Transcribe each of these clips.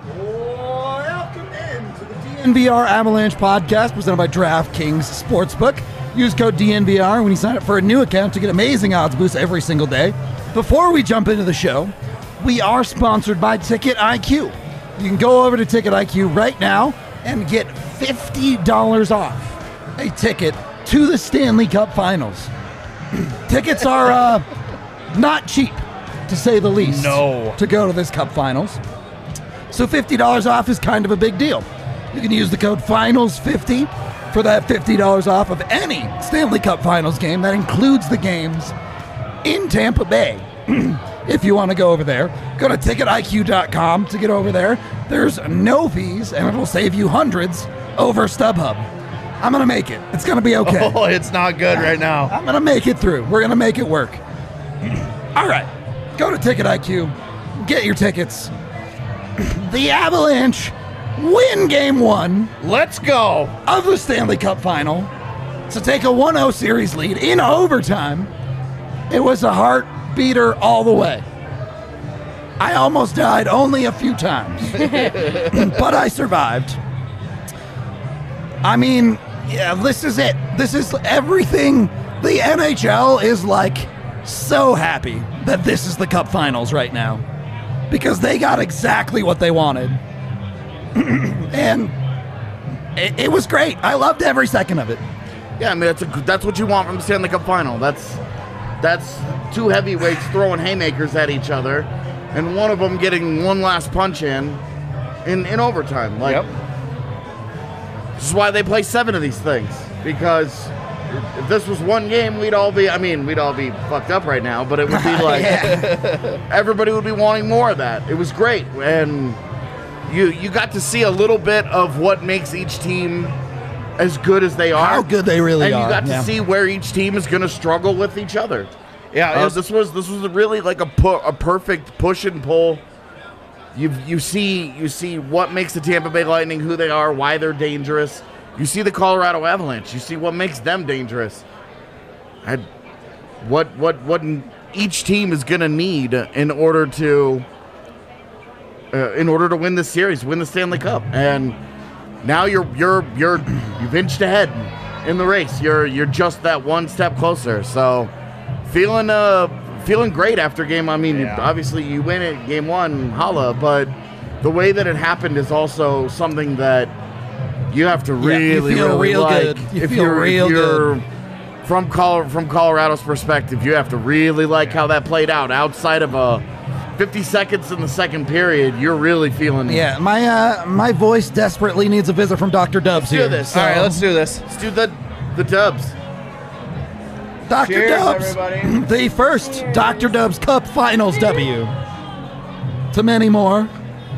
Welcome in to the DNVR Avalanche podcast presented by DraftKings Sportsbook. Use code DNVR when you sign up for a new account to get amazing odds boosts every single day. Before we jump into the show, we are sponsored by Ticket IQ. You can go over to Ticket IQ right now and get $50 off a ticket to the Stanley Cup Finals. Tickets are not cheap, to say the least. No. To go to this Cup Finals. So $50 off is kind of a big deal. You can use the code FINALS50 for that $50 off of any Stanley Cup Finals game. That includes the games in Tampa Bay. If you want to go over there, go to ticketiq.com to get over there. There's no fees, and it'll save you hundreds over StubHub. I'm going to make it. It's going to be okay. Oh, it's not good right now. I'm going to make it through. We're going to make it work. All right. Go to Ticket IQ. Get your tickets. The Avalanche win Game 1. Let's go. Of the Stanley Cup Final to take a 1-0 series lead in overtime. It was a heart beater all the way. I almost died only a few times, but I survived. I mean, yeah, this is it. This is everything. The NHL is like so happy that this is the Cup Finals right now because they got exactly what they wanted. And it was great. I loved every second of it. Yeah, I mean, that's what you want from the Stanley Cup Final. That's two heavyweights throwing haymakers at each other, and one of them getting one last punch in overtime. Like, This is why they play 7 of these things, because if this was one game, we'd all be fucked up right now, but it would be like everybody would be wanting more of that. It was great, and you got to see a little bit of what makes each team as good as they are. How good they really are. And you got to see where each team is going to struggle with each other. Yeah, this was really like a perfect push and pull. You see what makes the Tampa Bay Lightning who they are, why they're dangerous. You see the Colorado Avalanche. You see what makes them dangerous. What each team is going to need in order to win this series, win the Stanley Cup. And now you've inched ahead in the race. You're just that one step closer. So feeling great after game. I mean, obviously you win it Game 1, holla, but the way that it happened is also something that you have to really like. Good. If you're from Colorado's perspective, you have to really like how that played out. Outside of 50 seconds in the second period, you're really feeling. Yeah, my voice desperately needs a visit from Dr. Dubs here. Do this. All right, let's do this. Let's do the Dubs. Dr. Cheers, Dubs, everybody. the first Dr. Dubs Cup Finals W. To many more.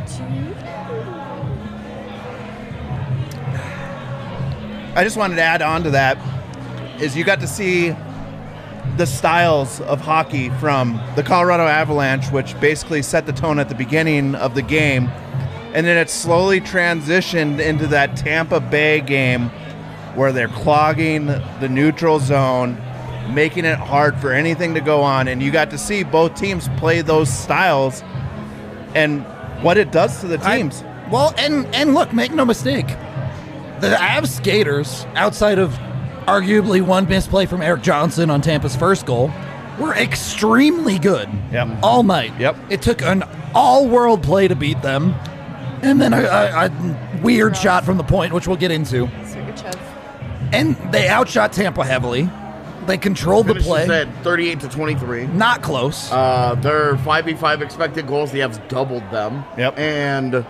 I just wanted to add on to that is you got to see the styles of hockey from the Colorado Avalanche, which basically set the tone at the beginning of the game, and then it slowly transitioned into that Tampa Bay game where they're clogging the neutral zone, making it hard for anything to go on, and you got to see both teams play those styles and what it does to the teams. And look, make no mistake, the Avs skaters, outside of arguably one misplay from Eric Johnson on Tampa's first goal, were extremely good all night. Yep. It took an all-world play to beat them, and then a weird shot from the point, which we'll get into. And they outshot Tampa heavily. They controlled the play. At 38-23. Not close. Their 5v5 expected goals, the Avs doubled them. Yep. And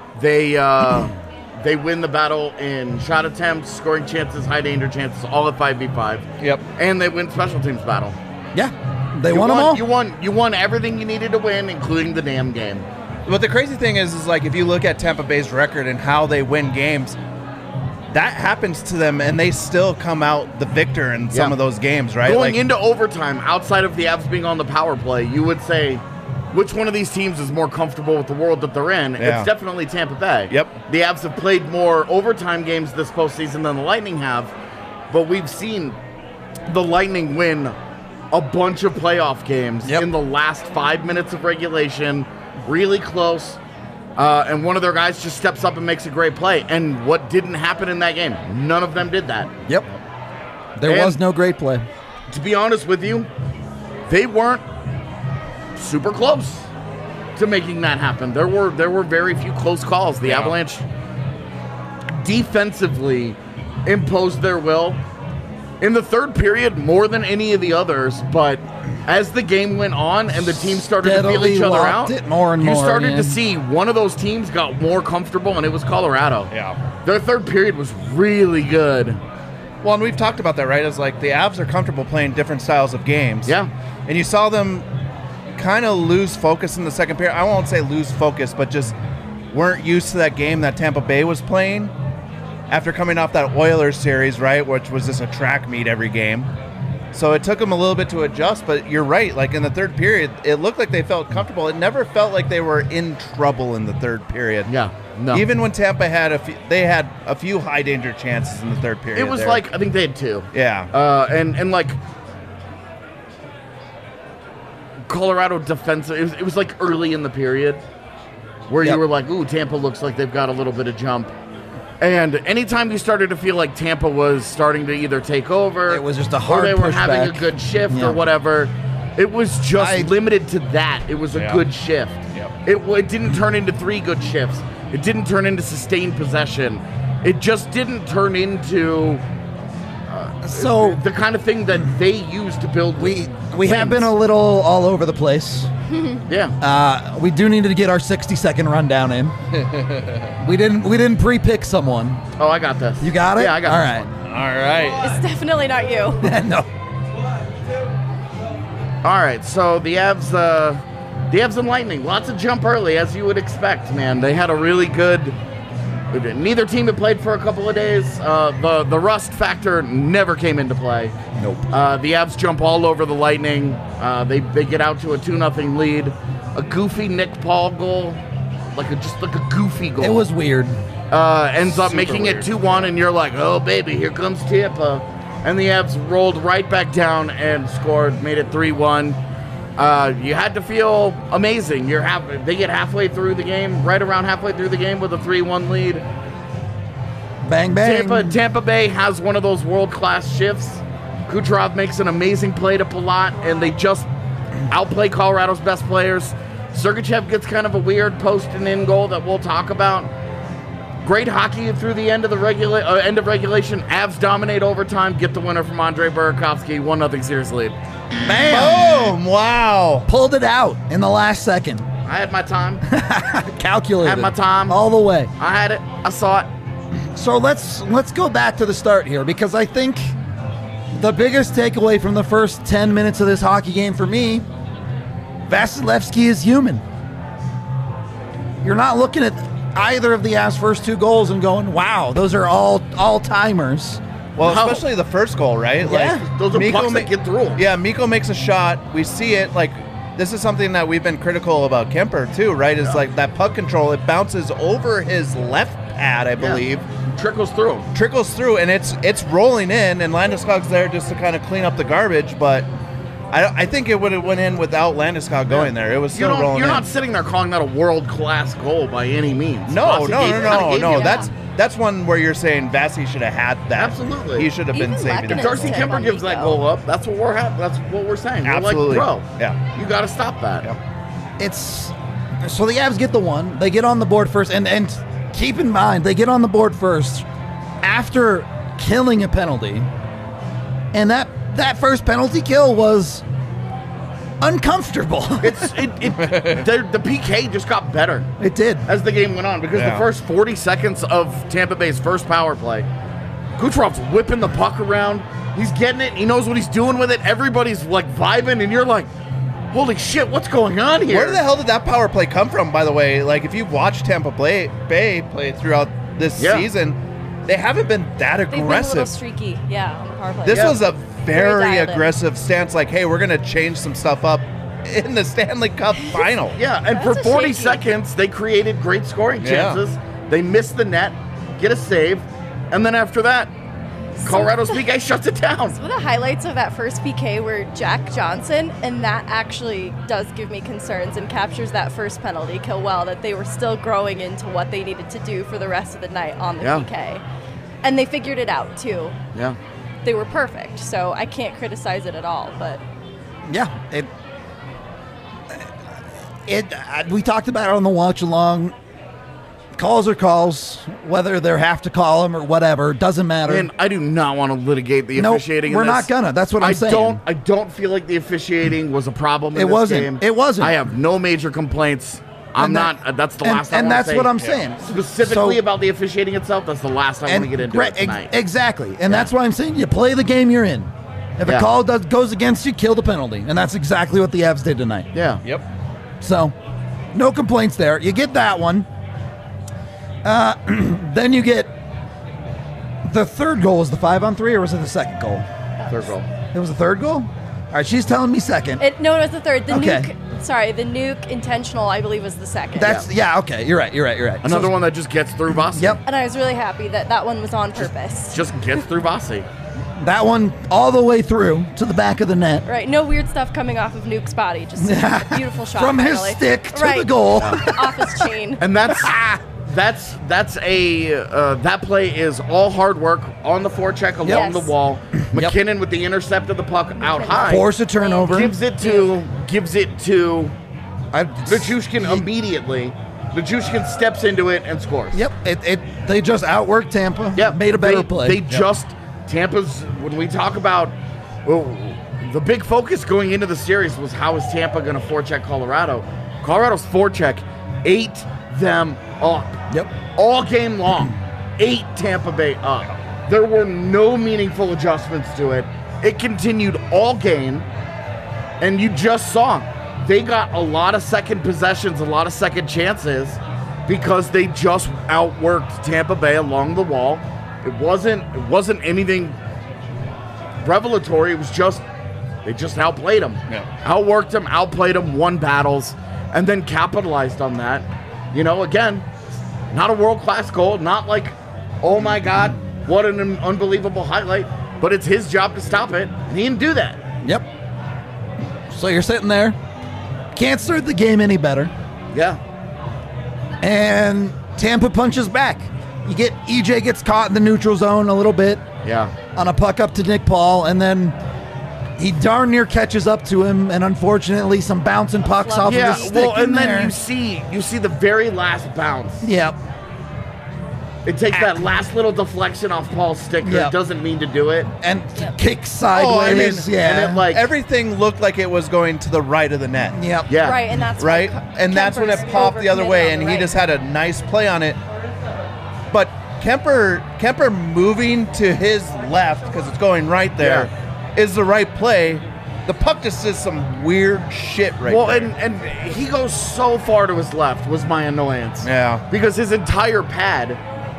they win the battle in shot attempts, scoring chances, high danger chances, all at 5v5. Yep. And they win special teams battle. Yeah. They won them all. You won everything you needed to win, including the damn game. But the crazy thing is like if you look at Tampa Bay's record and how they win games, that happens to them, and they still come out the victor in some of those games, right? Going into overtime, outside of the Avs being on the power play, you would say, which one of these teams is more comfortable with the world that they're in? Yeah. It's definitely Tampa Bay. Yep. The Avs have played more overtime games this postseason than the Lightning have, but we've seen the Lightning win a bunch of playoff games in the last 5 minutes of regulation, really close. and one of their guys just steps up and makes a great play. And what didn't happen in that game? None of them did that. Yep. There was no great play. To be honest with you, they weren't super close to making that happen. There were very few close calls. The Avalanche defensively imposed their will in the third period more than any of the others, but as the game went on and the teams started to feel each other out, it more and you more, started to see one of those teams got more comfortable, and it was Colorado. Yeah. Their third period was really good. Well, and we've talked about that, right? It's like the Avs are comfortable playing different styles of games. Yeah. And you saw them kind of lose focus in the second period. I won't say lose focus, but just weren't used to that game that Tampa Bay was playing after coming off that Oilers series, right, which was just a track meet every game. So it took them a little bit to adjust, but you're right. Like in the third period, it looked like they felt comfortable. It never felt like they were in trouble in the third period. Yeah, no. Even when Tampa had they had a few high danger chances in the third period. It was like, I think they had two. Yeah. And like Colorado defensive, it was like early in the period where you were like, ooh, Tampa looks like they've got a little bit of jump. And anytime you started to feel like Tampa was starting to either take over, it was just a hard or they were pushback. having a good shift or whatever, it was just limited to that. It was a good shift. Yep. It didn't turn into 3 good shifts. It didn't turn into sustained possession. It just didn't turn into So the kind of thing that they use to build. we have been a little all over the place. Yeah. We do need to get our 60-second rundown in. we didn't pre-pick someone. Oh, I got this. You got it? Yeah, I got All this right. All right. It's definitely not you. No. All right, so the Avs and Lightning, lots of jump early, as you would expect, man. They had a really good. Neither team had played for a couple of days. The rust factor never came into play. Nope. The Avs jump all over the Lightning. They get out to a 2-0 lead. A goofy Nick Paul goal, just like a goofy goal. It was weird. Ends up Super making weird. it 2-1, and you're like, oh baby, here comes Tampa. And the Avs rolled right back down and scored, made it 3-1. You had to feel amazing. They get halfway through the game, right around halfway through the game with a 3-1 lead. Bang, bang. Tampa Bay has one of those world-class shifts. Kucherov makes an amazing play to Palat, and they just outplay Colorado's best players. Sergachev gets kind of a weird post and in goal that we'll talk about. Great hockey through the end of end of regulation. Avs dominate overtime, get the winner from Andrei Burakovsky, 1-0 series lead. Bam! Boom! Wow. Pulled it out in the last second. I had my time. Calculated. Had my time. All the way. I had it. I saw it. So let's go back to the start here, because I think the biggest takeaway from the first 10 minutes of this hockey game for me, Vasilevsky is human. You're not looking at either of the Avs' first 2 goals and going, wow, those are all-timers. Well, No. especially the first goal, right? Yeah. Those are Mikko pucks that get through 'em. Yeah, Mikko makes a shot. We see it. Like, this is something that we've been critical about Kemper, too, right? Is like that puck control. It bounces over his left pad, I believe. Trickles through 'em. Trickles through, and it's rolling in, and Landeskog's there just to kind of clean up the garbage, but I think it would have went in without Landeskog going there. It was still rolling You're in. not sitting there calling that a world-class goal by any means. No. Vasi gave you That's one where you're saying Vasi should have had that. Absolutely. He should have been Even saving Lehkonen it. Darcy Tip Kemper on gives that Mikko. goal up. That's what we're saying. Absolutely. We're like, bro, Yeah. you got to stop that. Yep. It's so the Avs get the one. They get on the board first, and keep in mind they get on the board first after killing a penalty, and that first penalty kill was uncomfortable. The PK just got better It did. as the game went on, because the first 40 seconds of Tampa Bay's first power play, Kucherov's whipping the puck around. He's getting it. He knows what he's doing with it. Everybody's like vibing, and you're like, holy shit, what's going on here? Where the hell did that power play come from, by the way? Like, if you've watched Tampa Bay play throughout this season, they haven't been that They've been a aggressive. little streaky, on the power play. This was a very dialed in. aggressive stance, like, hey, we're going to change some stuff up in the Stanley Cup final. Yeah, and That's for a 40 shaky. seconds, they created great scoring Yeah. chances. They missed the net, get a save, and then after that, Colorado's PK shuts it down. Some of the highlights of that first PK were Jack Johnson, and that actually does give me concerns and captures that first penalty kill well, that they were still growing into what they needed to do for the rest of the night on the PK. And they figured it out, too. Yeah. They were perfect, so I can't criticize it at all, but... Yeah, we talked about it on the watch along. Calls are calls, whether they have to call them or whatever, doesn't matter. And I do not want to litigate the officiating. We're in not this. gonna. That's what I'm saying. I don't feel like the officiating was a problem in It this wasn't. game. It wasn't. I have no major complaints. I'm not. That's the last. And that's what I'm saying. Specifically So- about the officiating itself. That's the last I want to get into it tonight. Exactly, and that's why I'm saying you play the game you're in. If a call goes against you, kill the penalty, and that's exactly what the Avs did tonight. Yeah. Yep. So, no complaints there. You get that one. Then you get the third goal. Was the 5-on-3 or was it the second goal? Third goal. It was the third goal? All right, she's telling me second. No, it was the third. The Okay. the nuke intentional, I believe, was the second. Okay. You're right. Another one that just gets through Vasi. Yep. And I was really happy that that one was on purpose. Just gets through Vasi. That one all the way through to the back of the net. Right, no weird stuff coming off of Nuke's body. Just a beautiful shot. From his finally. stick to right. the goal. Off his chain. And that play is all hard work on the forecheck along Yes. the wall. McKinnon with the intercept of the puck out high. Force a turnover. Gives it to Nichushkin immediately. Nichushkin steps into it and scores. Yep. They just outworked Tampa. Yep. Made a better play. Tampa's, when we talk about, well, the big focus going into the series was how is Tampa going to forecheck Colorado. Colorado's forecheck ate them up. Yep. All game long, ate Tampa Bay up. There were no meaningful adjustments to it. It continued all game, and you just saw they got a lot of second possessions, a lot of second chances because they just outworked Tampa Bay along the wall. It wasn't anything revelatory. It was just they just outplayed them, outworked them, outplayed them, won battles, and then capitalized on that. You know, again, not a world-class goal, not like, oh my God, what an unbelievable highlight, but it's his job to stop it, and he didn't do that. Yep. So you're sitting there, can't start the game any better, Yeah. and Tampa punches back. You get EJ gets caught in the neutral zone a little bit Yeah. on a puck up to Nick Paul, and then he darn near catches up to him, and unfortunately some bouncing pucks off of Yeah, his stick well, in and there. then you see the very last bounce. Yep. It takes that last little deflection off Paul's stick. Yeah. It doesn't mean to do it. And kicks sideways. yeah. And it, like, Everything looked like it was going to the right of the net. Yep. Yeah. Right, and that's Right? why And that's when it Kemper's popped the other way, overcommitted on and the he right. just had a nice play on it. But Kemper moving to his left, because it's going right there, is the right play. The puck just does some weird shit right Well, there. and he goes so far to his left was my annoyance. Yeah. Because his entire pad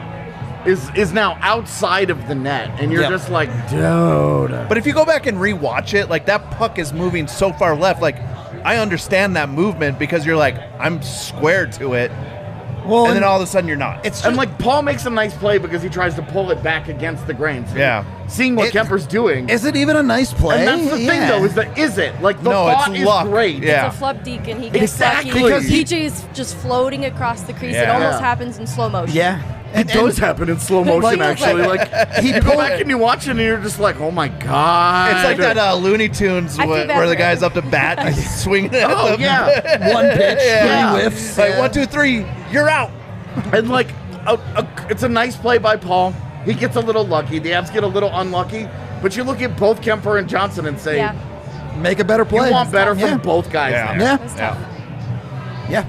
is now outside of the net, and you're Yep. just like, dude. But if you go back and rewatch it, like that puck is moving so far left. Like I understand that movement because you're like, I'm squared to it, Well, and then all of a sudden you're not. it's And just, like Paul makes a nice play because he tries to pull it back against the grain. So Yeah. Seeing what It- Kemper's doing. is it even a nice play? And that's the thing, Yeah. though, is it? Like, the No, it's thought is luck. great. Yeah. It's a flub deacon. He gets Exactly. lucky. Because he- PJ's just floating across the crease. It Yeah. almost Yeah. happens in slow motion. Yeah. It does happen in slow motion, Like- actually. Like, he you go pulled- back and you watch it, and you're just like, oh my God. It's like that Looney Tunes I feel where, bad where for the guy's him. up to bat and he's swinging at Oh, them. yeah. One pitch, Yeah. 3 whiffs. Like yeah. 1, 2, 3, you're out. And like, it's a nice play by Paul. He gets a little lucky. The Avs get a little unlucky. But you look at both Kemper and Johnson and say, Yeah. Make a better play. you want better Yeah. from both guys Yeah. there. Yeah. It was tough. Yeah.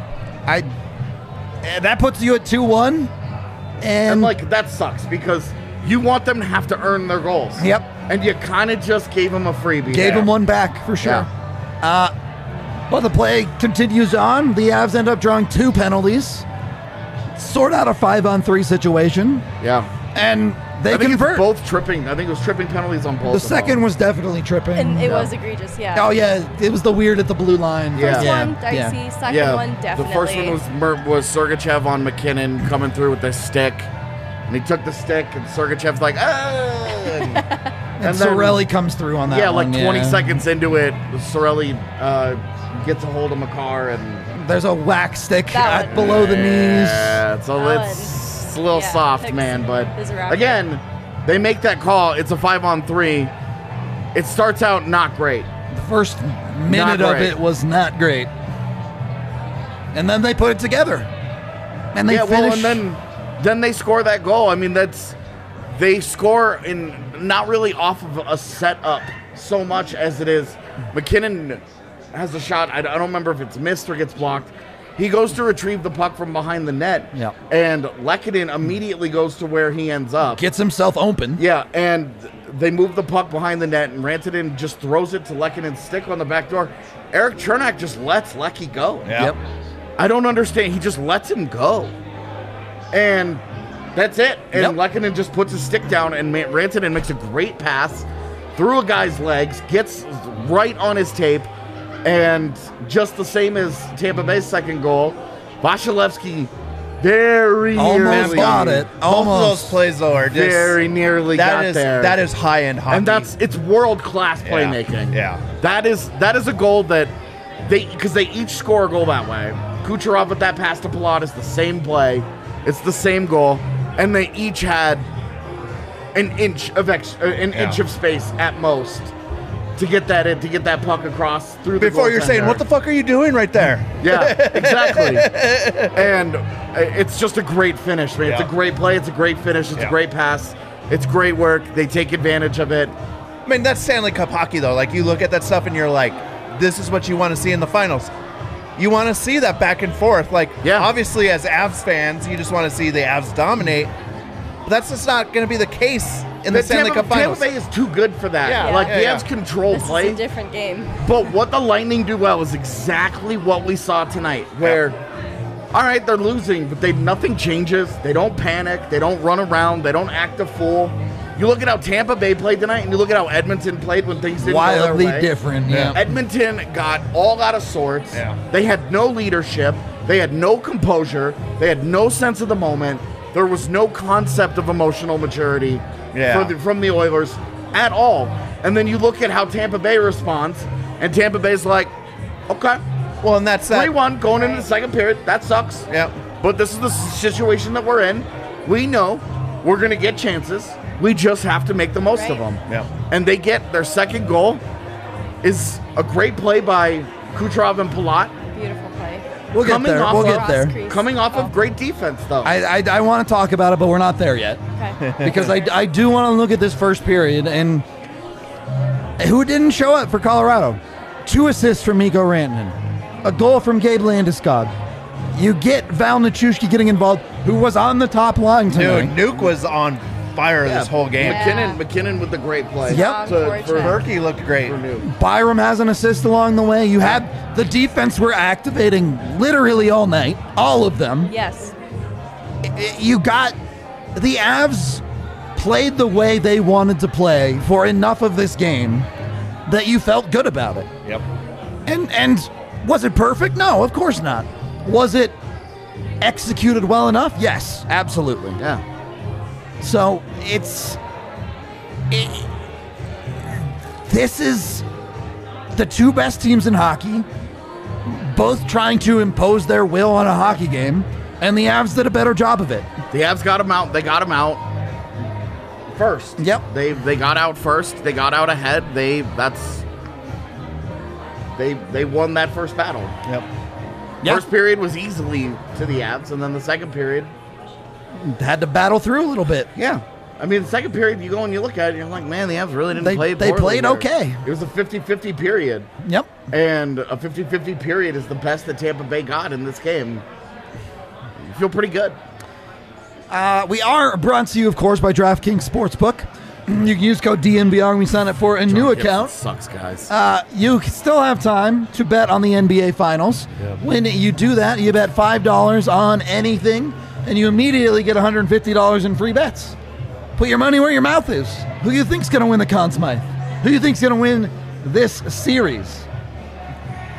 That puts you at 2-1. And like, that sucks because you want them to have to earn their goals. Yep. And you kind of just gave them a freebie. Gave there. him one back for sure. But the play continues on. The Avs end up drawing 2 penalties. Sort out a 5-on-3 situation. Yeah. And they I think convert. it's both tripping. I think it was tripping penalties on both. The of second them. was definitely tripping. And it was egregious, yeah. Oh, yeah. It was the weird at the blue line. Yeah. First Yeah. one, dicey. Yeah. Second one, definitely. The first one was Sergachev on McKinnon coming through with the stick. And he took the stick, and Sergachev's like, oh. And then- Sorelli comes through on that Yeah, one. like 20 seconds into it, Sorelli gets a hold of Makar and There's a whack stick That one. below the knees. yeah, so That it's a little yeah, soft, Hicks man. But is a rapper. again, they make that call. It's a 5-on-3. It starts out not great. The first minute of great. it was not great. And then they put it together. And they Yeah, finish. well, and then they score that goal. I mean, they score in not really off of a setup so much as it is McKinnon has a shot. I don't remember if it's missed or gets blocked. He goes to retrieve the puck from behind the net, Yep. and Lehkonen immediately goes to where he ends up. Gets himself open. Yeah, and they move the puck behind the net, and Rantanen just throws it to Lehkonen's stick on the back door. Eric Chernak just lets Lecky go. Yeah. Yep. I don't understand. He just lets him go. And that's it. And Yep. Lehkonen just puts his stick down, and Rantanen makes a great pass through a guy's legs, gets right on his tape, and just the same as Tampa Bay's second goal, Vasilevsky very Almost nearly got it. Both of those Almost. plays though are just Very nearly got there. That is high end hockey. and it's world class Yeah. playmaking. Yeah. That is a goal that because they each score a goal that way. Kucherov with that pass to Pilatus, the same play. It's the same goal, and they each had an inch of space at most to get that in, to get that puck across through the Before you're saying, goaltender. what the fuck are you doing right there? Yeah, exactly. And it's just a great finish, man. It's a Yeah. great play. It's a great finish. It's a Yeah. great pass. It's great work. They take advantage of it. I mean, that's Stanley Cup hockey, though. Like, you look at that stuff and you're like, this is what you want to see in the finals. You want to see that back and forth. Like, Yeah. obviously, as Avs fans, you just want to see the Avs dominate. But that's just not going to be the case in the Stanley Cup finals. Tampa Bay is too good for that. Yeah, Like, yeah, the yeah. Avs control This is play. a different game. But what the Lightning do well is exactly what we saw tonight, where, all right, they're losing, but nothing changes. They don't panic. They don't run around. They don't act a fool. You look at how Tampa Bay played tonight, and you look at how Edmonton played when things didn't go Wildly their way. different. Yeah. Edmonton got all out of sorts. Yeah. They had no leadership. They had no composure. They had no sense of the moment. There was no concept of emotional maturity Yeah. from the Oilers at all. And then you look at how Tampa Bay responds, and Tampa Bay's like, okay, Well, and that's that. 3-1 going into the second period. That sucks. Yep. But this is the situation that we're in. We know we're going to get chances. We just have to make the most of Right. them. Yep. And they get their second goal is a great play by Kucherov and Palat. Beautiful play. We'll get Coming there. off We'll of- get there. Cross crease. Coming off Oh. of great defense, though. I want to talk about it, but we're not there yet. Okay. Because I do want to look at this first period and who didn't show up for Colorado. 2 assists from Mikko Rantanen. A goal from Gabe Landeskog. You get Val Nichushkin getting involved, who was on the top line tonight. Dude, Nuke was on fire this whole game. Yeah. McKinnon with the great play. Yep. For Berkey looked great. Nuke. Byram has an assist along the way. You had the defense were activating literally all night, all of them. Yes. You got the Avs played the way they wanted to play for enough of this game that you felt good about it. Yep. And was it perfect? No, of course not. Was it executed well enough? Yes, absolutely. Yeah. So this is the 2 best teams in hockey, both trying to impose their will on a hockey game, and the Avs did a better job of it. The Avs got him out. They got him out first. Yep. They got out first. They got out ahead. They won that first battle. Yep. Yeah. First period was easily to the Avs, and then the second period, Had to battle through a little bit. yeah. I mean, the second period, you go and you look at it, and you're like, man, the Avs really didn't They- play they poorly played there. okay. It was a 50-50 period, Yep. and a 50-50 period is the best that Tampa Bay got in this game. You feel pretty good. We are brought to you, of course, by DraftKings Sportsbook. You can use code DNVR when we sign up for a new account. Sucks, guys. You still have time to bet on the NBA Finals. When you do that, you bet $5 on anything, and you immediately get $150 in free bets. Put your money where your mouth is. Who you think's going to win the Conn Smythe? Who you think's going to win this series?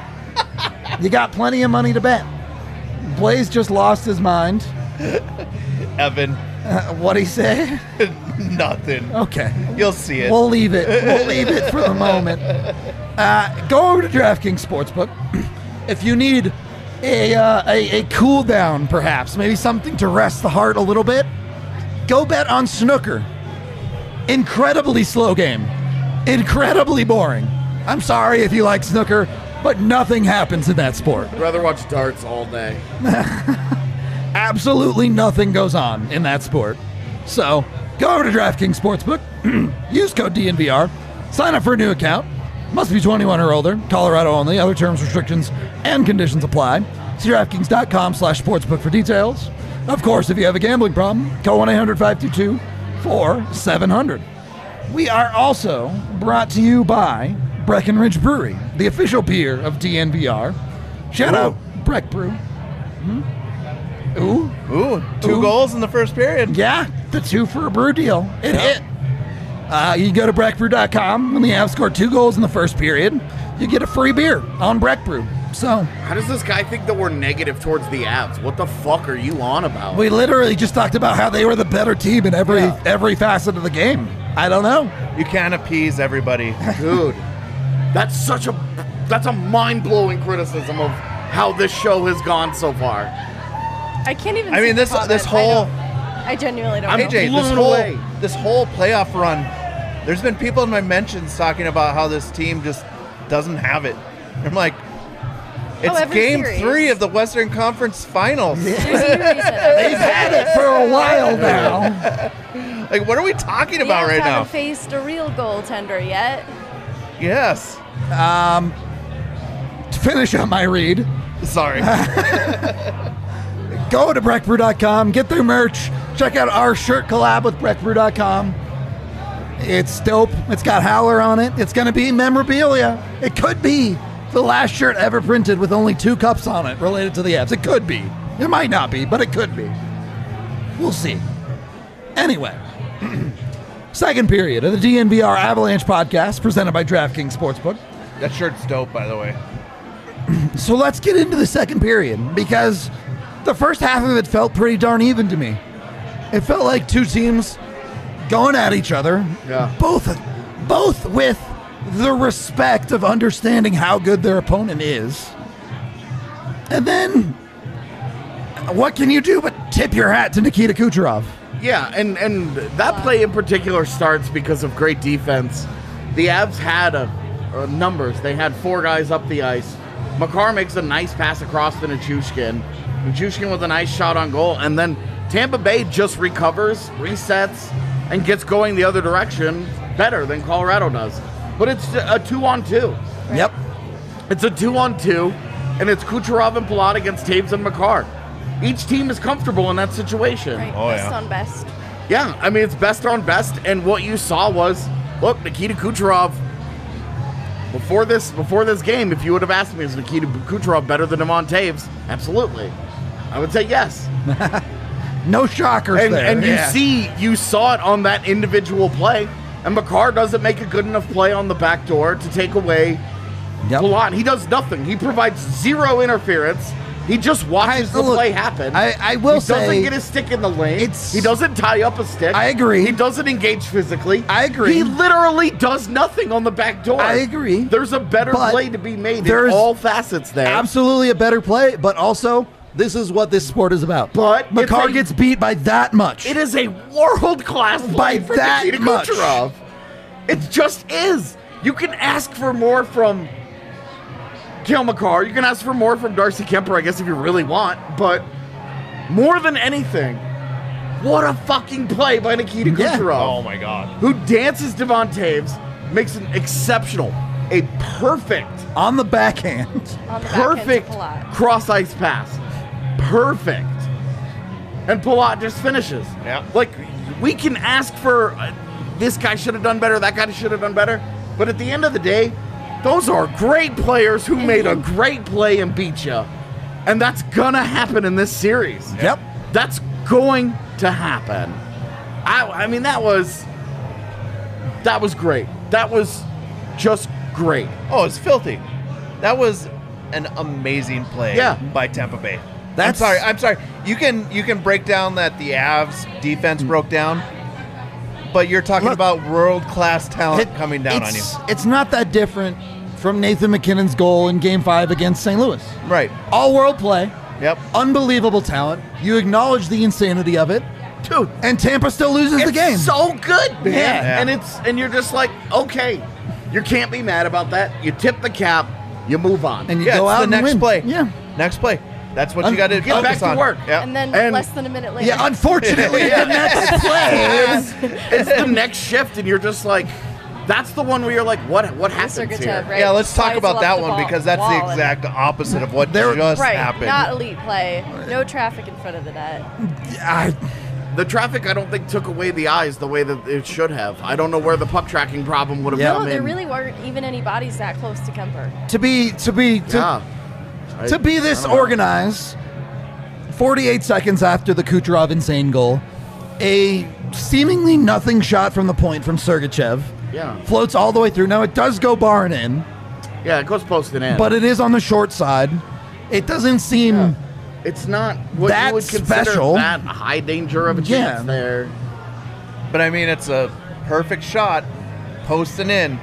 You got plenty of money to bet. Blaze just lost his mind. Evan, What'd he say? nothing. Okay. You'll see it. We'll leave it. We'll leave it for the moment. Go over to DraftKings Sportsbook. If you need a cool down, perhaps, maybe something to rest the heart a little bit, go bet on snooker. Incredibly slow game. Incredibly boring. I'm sorry if you like snooker, but nothing happens in that sport. I'd rather watch darts all day. Absolutely nothing goes on in that sport. So, go over to DraftKings Sportsbook, use code DNVR, sign up for a new account. Must be 21 or older, Colorado only. Other terms, restrictions, and conditions apply. See DraftKings.com/sportsbook for details. Of course, if you have a gambling problem, call 1-800-522-4700. We are also brought to you by Breckenridge Brewery, the official beer of DNVR. Shout out Breck Brew. Ooh. Two goals in the first period. Yeah, the 2 for a brew deal. It hit. You can go to breckbrew.com. When the Avs score 2 goals in the first period, you get a free beer on Breck Brew. So How does this guy think that we're negative towards the Avs? What the fuck are you on about? we literally just talked about how they were the better team in every facet of the game. I don't know. You can't appease everybody. Dude, that's a mind-blowing criticism of how this show has gone so far. I can't even. I mean, see the this comment. whole I genuinely don't I'm know. AJ, blown away. this whole playoff run. There's been people in my mentions talking about how this team just doesn't have it. I'm like, it's every game series. 3 of the Western Conference Finals. There's a new reason. They've had it for a while now. Like, what are we talking The about Avs right now? haven't faced a real goaltender yet. Yes. To finish up my read, Sorry. go to breckbrew.com, get their merch, check out our shirt collab with breckbrew.com. It's dope. It's got Howler on it. It's going to be memorabilia. It could be the last shirt ever printed with only 2 cups on it related to the Avs. It could be. It might not be, but it could be. We'll see. Anyway, second period of the DNVR Avalanche podcast presented by DraftKings Sportsbook. That shirt's dope, by the way. So let's get into the second period because the first half of it felt pretty darn even to me. It felt like 2 teams going at each other, both with the respect of understanding how good their opponent is. And then, what can you do but tip your hat to Nikita Kucherov? Yeah, and that play in particular starts because of great defense. The Avs had numbers. They had 4 guys up the ice. Makar makes a nice pass across to Nichushkin. Nichushkin with a nice shot on goal, and then Tampa Bay just recovers, resets, and gets going the other direction better than Colorado does. But it's a 2-on-2. Yep. It's a 2-on-2, and it's Kucherov and Palat against Taves and Makar. Each team is comfortable in that situation. Right. Oh, best yeah. on best. Yeah, I mean, it's best on best, and what you saw was, look, Nikita Kucherov, before this game, if you would have asked me, is Nikita Kucherov better than Devon Taves? Absolutely. I would say yes. No shockers there. And you saw it on that individual play, and Makar doesn't make a good enough play on the back door to take away Palat. He does nothing. He provides 0 interference. He just watches the play happen. I will say, he doesn't get his stick in the lane. He doesn't tie up a stick. I agree. He doesn't engage physically. I agree. He literally does nothing on the back door. I agree. There's a better But play to be made in there's all facets there. Absolutely a better play, but also this is what this sport is about. But Makar gets beat by that much. It is a world-class play By for that Nikita much. Kucherov. It just is. You can ask for more from Cale Makar. You can ask for more from Darcy Kemper, I guess, if you really want. But more than anything, what a fucking play by Nikita Kucherov. Oh, my God. Who dances Devon Taves, makes an exceptional, a perfect, on the backhand. On the perfect backhand to Palat. cross-ice pass. Perfect. And Palat just finishes. Yeah. Like, we can ask for this guy should have done better, that guy should have done better. But at the end of the day, those are great players who made a great play and beat you. And that's going to happen in this series. Yep. That's going to happen. I mean, that was great. That was just great. Oh, it's filthy. That was an amazing play Yeah. by Tampa Bay. I'm sorry. You can break down that the Avs defense broke down, but you're talking about world-class talent coming down on you. It's not that different from Nathan McKinnon's goal in Game 5 against St. Louis. Right. All-world play. Yep. Unbelievable talent. You acknowledge the insanity of it. Dude. And Tampa still loses the game. So good, man. Yeah. And you're just like, okay, you can't be mad about that. You tip the cap, you move on. And you go out the and next win. play. Yeah. Next play. That's what you got to Get back focus to on. work. Yeah. And then And- less than a minute later. Yeah, unfortunately, the next play. It's the next shift, and you're just like, that's the one where you're like, what happens Sergachev, here? right? Yeah, let's talk Slides about up that the one ball- because that's wall the and- exact opposite of what There- just Right, happened. not elite play. No traffic in front of the net. The traffic, I don't think, took away the eyes the way that it should have. I don't know where the puck tracking problem would have Yeah. come No, there in. really weren't even any bodies that close to Kemper. To be Yeah. this organized, 48 seconds after the Kucherov insane goal, a seemingly nothing shot from the point from Sergachev Yeah. floats all the way through. Now it does go barn in, Yeah, it goes posted in. but it is on the short side. It doesn't seem it's not what That you would consider special. that high danger of a Yeah. chance there. But I mean, it's a perfect shot, posting in.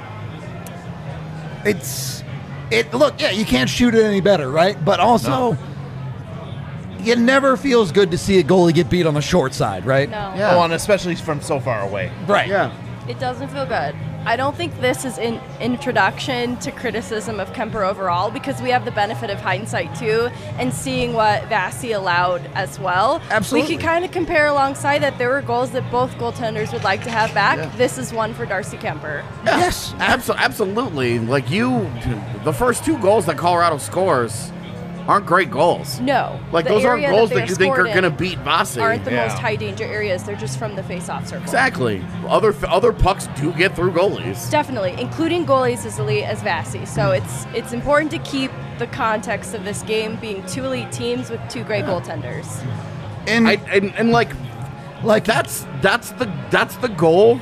Look, yeah, you can't shoot it any better, right? But also, it never feels good to see a goalie get beat on the short side, right? No. Yeah. Oh, and especially from so far away. Right. Yeah. It doesn't feel good. I don't think this is an introduction to criticism of Kemper overall because we have the benefit of hindsight too and seeing what Vasi allowed as well. Absolutely. We could kind of compare alongside that there were goals that both goaltenders would like to have back. Yeah. This is one for Darcy Kemper. Yeah. Yes. Absolutely. Like the first two goals that Colorado scores aren't great goals. No. Like the those aren't area goals they that you think are scored in going to beat Vasi. aren't the Yeah. most high danger areas. They're just from the face-off circle. Exactly. Other pucks do get through goalies. Definitely, including goalies as elite as Vasi. So it's important to keep the context of this game being two elite teams with two great goaltenders. And And like that's the goal.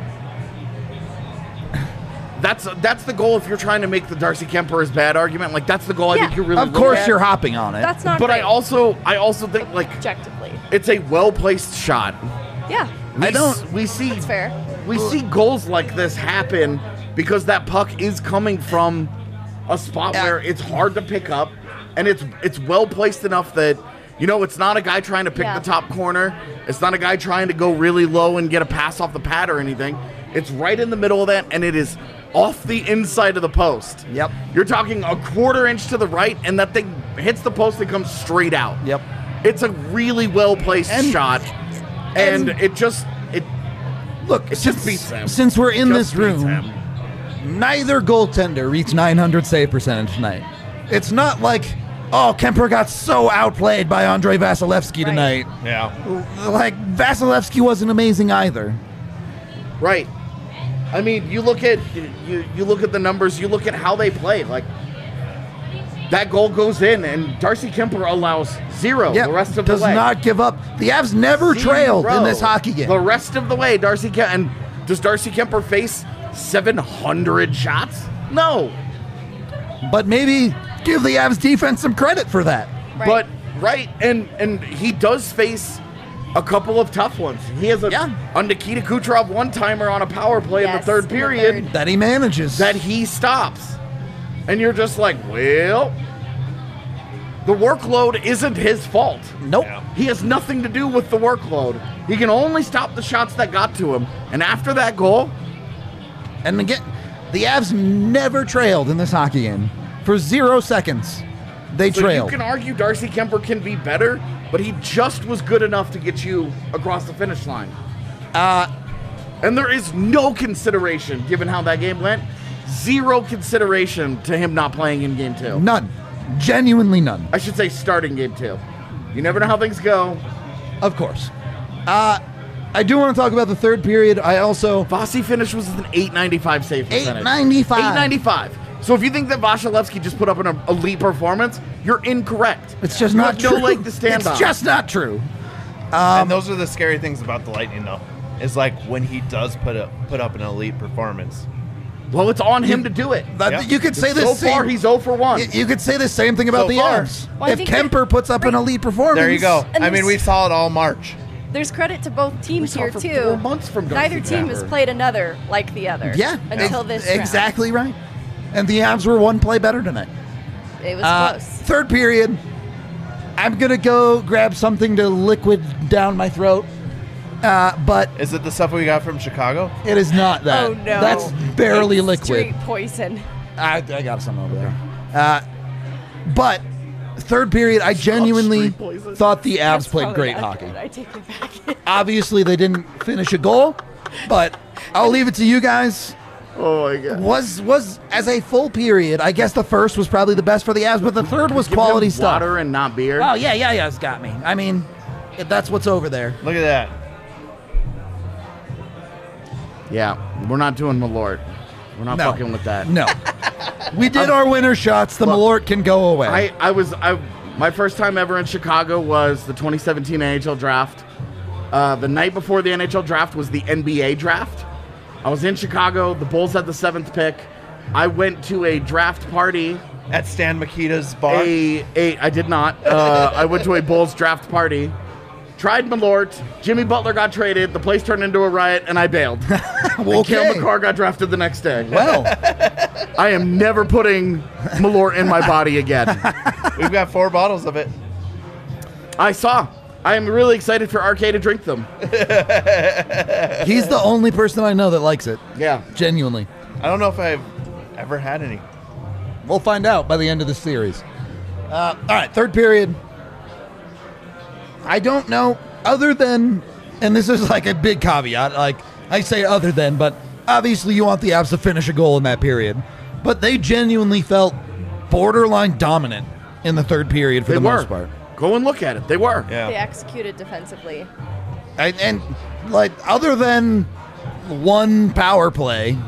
That's the goal if you're trying to make the Darcy Kemper is bad argument. Like that's the goal I Yeah. think you really of look course at. you're hopping on it. That's not But great. I also think like objectively. it's a well placed shot. Yeah, We see that's fair. We see goals like this happen because that puck is coming from a spot Yeah. where it's hard to pick up, and it's well placed enough that it's not a guy trying to pick Yeah. the top corner. It's not a guy trying to go really low and get a pass off the pad or anything. It's right in the middle of that, and it is off the inside of the post. Yep. You're talking a quarter inch to the right, and that thing hits the post and comes straight out. Yep. It's a really well placed And- shot, and it Look, just beats them. Since we're in just this room, beats them. neither goaltender reached 900 save percentage tonight. It's not like, oh, Kemper got so outplayed by Andrei Vasilevsky Right. tonight. Yeah. Like, Vasilevsky wasn't amazing either. Right. I mean, you look at the numbers. You look at how they play. Like that goal goes in, and Darcy Kemper allows zero Yeah, the rest of does the way. not give up. The Avs never trailed in this hockey game. The rest of the way, Darcy Kemper. And does Darcy Kemper face 700 shots? No. But maybe give the Avs defense some credit for that. Right. But right, and he does face a couple of tough ones. He has a Nikita Kucherov one-timer on a power play in the Yes, third in the period third. That he manages. that he stops. And you're just like, well, the workload isn't his fault. Nope. Yeah. He has nothing to do with the workload. He can only stop the shots that got to him. And after that goal, And again, the Avs never trailed in this hockey game. For 0 seconds, they so trailed. you can argue Darcy Kemper can be better, but he just was good enough to get you across the finish line. And there is no consideration, given how that game went, zero consideration to him not playing in game two. None. Genuinely none. I should say starting game two. You never know how things go. Of course. I do want to talk about the third period. I also... Vasi finish was with an 895 save percentage. 895. 895. So if you think that Vasilevsky just put up an elite performance, you're incorrect. It's just You not have true. no leg to stand on. It's just not true. And those are the scary things about the Lightning, though. Is like when he does put up an elite performance, Well, it's on him to do it. You could say this. So far, he's 0 for 1. You could say the same thing about So the far. Avs. Well, I If think Kemper puts up an elite performance, There you go. And I mean, we there's- saw it all March. There's credit to both teams saw here for too. 4 months from Darcy Neither team has Kuemper. played another like the other. Yeah, Until this round. exactly right. And the Avs were one play better tonight. It was close. Third period, I'm gonna go grab something to liquid down my throat, but Is it the stuff we got from Chicago? it is not that. Oh no. That's barely It's liquid. Straight poison. I got some over there. But third period, I genuinely street poison. thought the Avs That's played probably great not hockey. good. I take it back. Obviously, they didn't finish a goal, but I'll leave it to you guys. Oh, my God. Was as a full period, I guess the first was probably the best for the Avs, but the third was Give quality him stuff. water and not beer. Oh, yeah, it's got me. I mean, that's what's over there. Look at that. Yeah, we're not doing Malort. We're not No. fucking with that. No. We did our winner shots. The Malort can go away. My first time ever in Chicago was the 2017 NHL draft. The night before the NHL draft was the NBA draft. I was in Chicago. The Bulls had the 7th pick. I went to a draft party. At Stan Mikita's bar. I did not. I went to a Bulls draft party. Tried Malort. Jimmy Butler got traded. The place turned into a riot, and I bailed. And Cale McCarr got drafted the next day. Well, I am never putting Malort in my body again. We've got 4 bottles of it. I saw. I am really excited for RK to drink them. he's the only person I know that likes it. Yeah. Genuinely. I don't know if I've ever had any. We'll find out by the end of the series. All right, third period. I don't know, other than, and this is like a big caveat, like I say other than, but obviously you want the Avs to finish a goal in that period. But they genuinely felt borderline dominant in the third period for the most part. Go and look at it. They were. Yeah. They executed defensively. And like, other than one power play,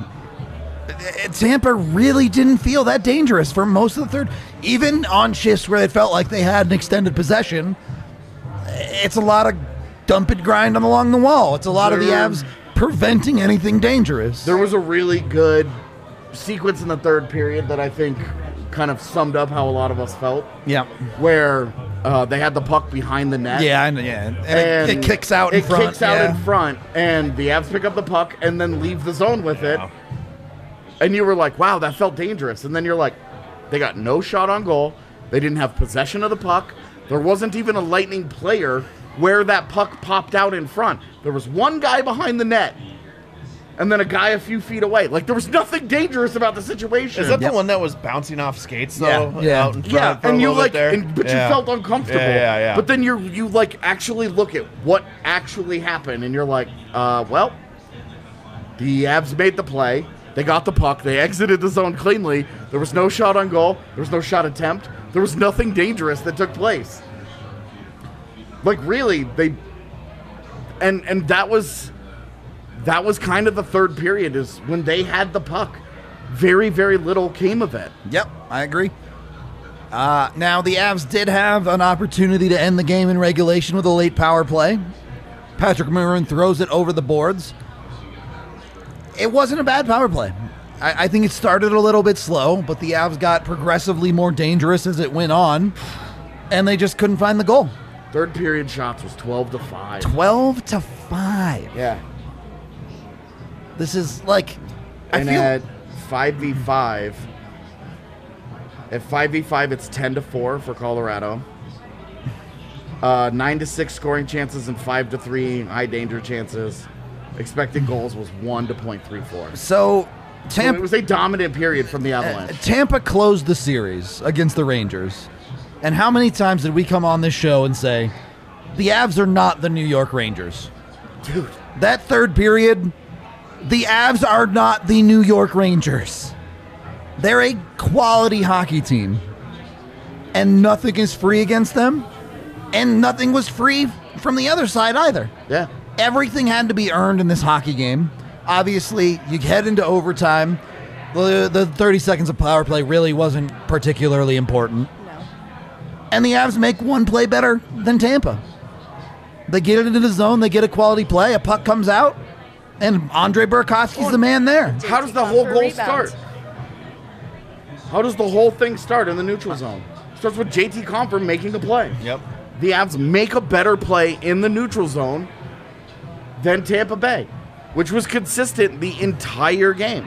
Tampa really didn't feel that dangerous for most of the third. Even on shifts where it felt like they had an extended possession, it's a lot of dump and grind along the wall. It's a lot of the Avs preventing anything dangerous. There was a really good sequence in the third period that I think kind of summed up how a lot of us felt, Yeah. where they had the puck behind the net. Yeah, and it kicks out in front. It kicks out yeah. in front, and the Avs pick up the puck and then leave the zone with it. Wow. And you were like, wow, that felt dangerous. And then you're like, they got no shot on goal. They didn't have possession of the puck. There wasn't even a Lightning player where that puck popped out in front. There was one guy behind the net and then a guy a few feet away. Like, there was nothing dangerous about the situation. Is that Yep. the one that was bouncing off skates, though? Yeah. Out in front Yeah, for a and you little like, bit there? but Yeah. you felt uncomfortable. Yeah. But then you like actually look at what actually happened, and you're like, well, the Avs made the play. They got the puck. They exited the zone cleanly. There was no shot on goal. There was no shot attempt. There was nothing dangerous that took place. Like, really, and that was kind of the third period, is when they had the puck. Very, very little came of it. Yep, I agree. Now, the Avs did have an opportunity to end the game in regulation with a late power play. Patrick Maroon throws it over the boards. It wasn't a bad power play. I think it started a little bit slow, but the Avs got progressively more dangerous as it went on, and they just couldn't find the goal. Third period shots was 12-5. 12-5. Yeah. This is like, And I feel at 5v5, it's 10-4 for Colorado. 9-6 scoring chances and 5-3 high danger chances. Expected goals was 1 to .34. so. So it was a dominant period from the Avalanche. Tampa closed the series against the Rangers. And how many times did we come on this show and say, the Avs are not the New York Rangers? Dude, That third period, the Avs are not the New York Rangers. They're a quality hockey team. And nothing is free against them. And nothing was free from the other side either. yeah. Everything had to be earned in this hockey game. Obviously, you head into overtime. The 30 seconds of power play really wasn't particularly important. No. And the Avs make one play better than Tampa. They get it into the zone. They get a quality play. A puck comes out. And Andre Burakovsky's the man there. How does the whole goal start? How does the whole thing start in the neutral zone? It starts with JT Compher making a play. Yep. The Avs make a better play in the neutral zone than Tampa Bay, which was consistent the entire game.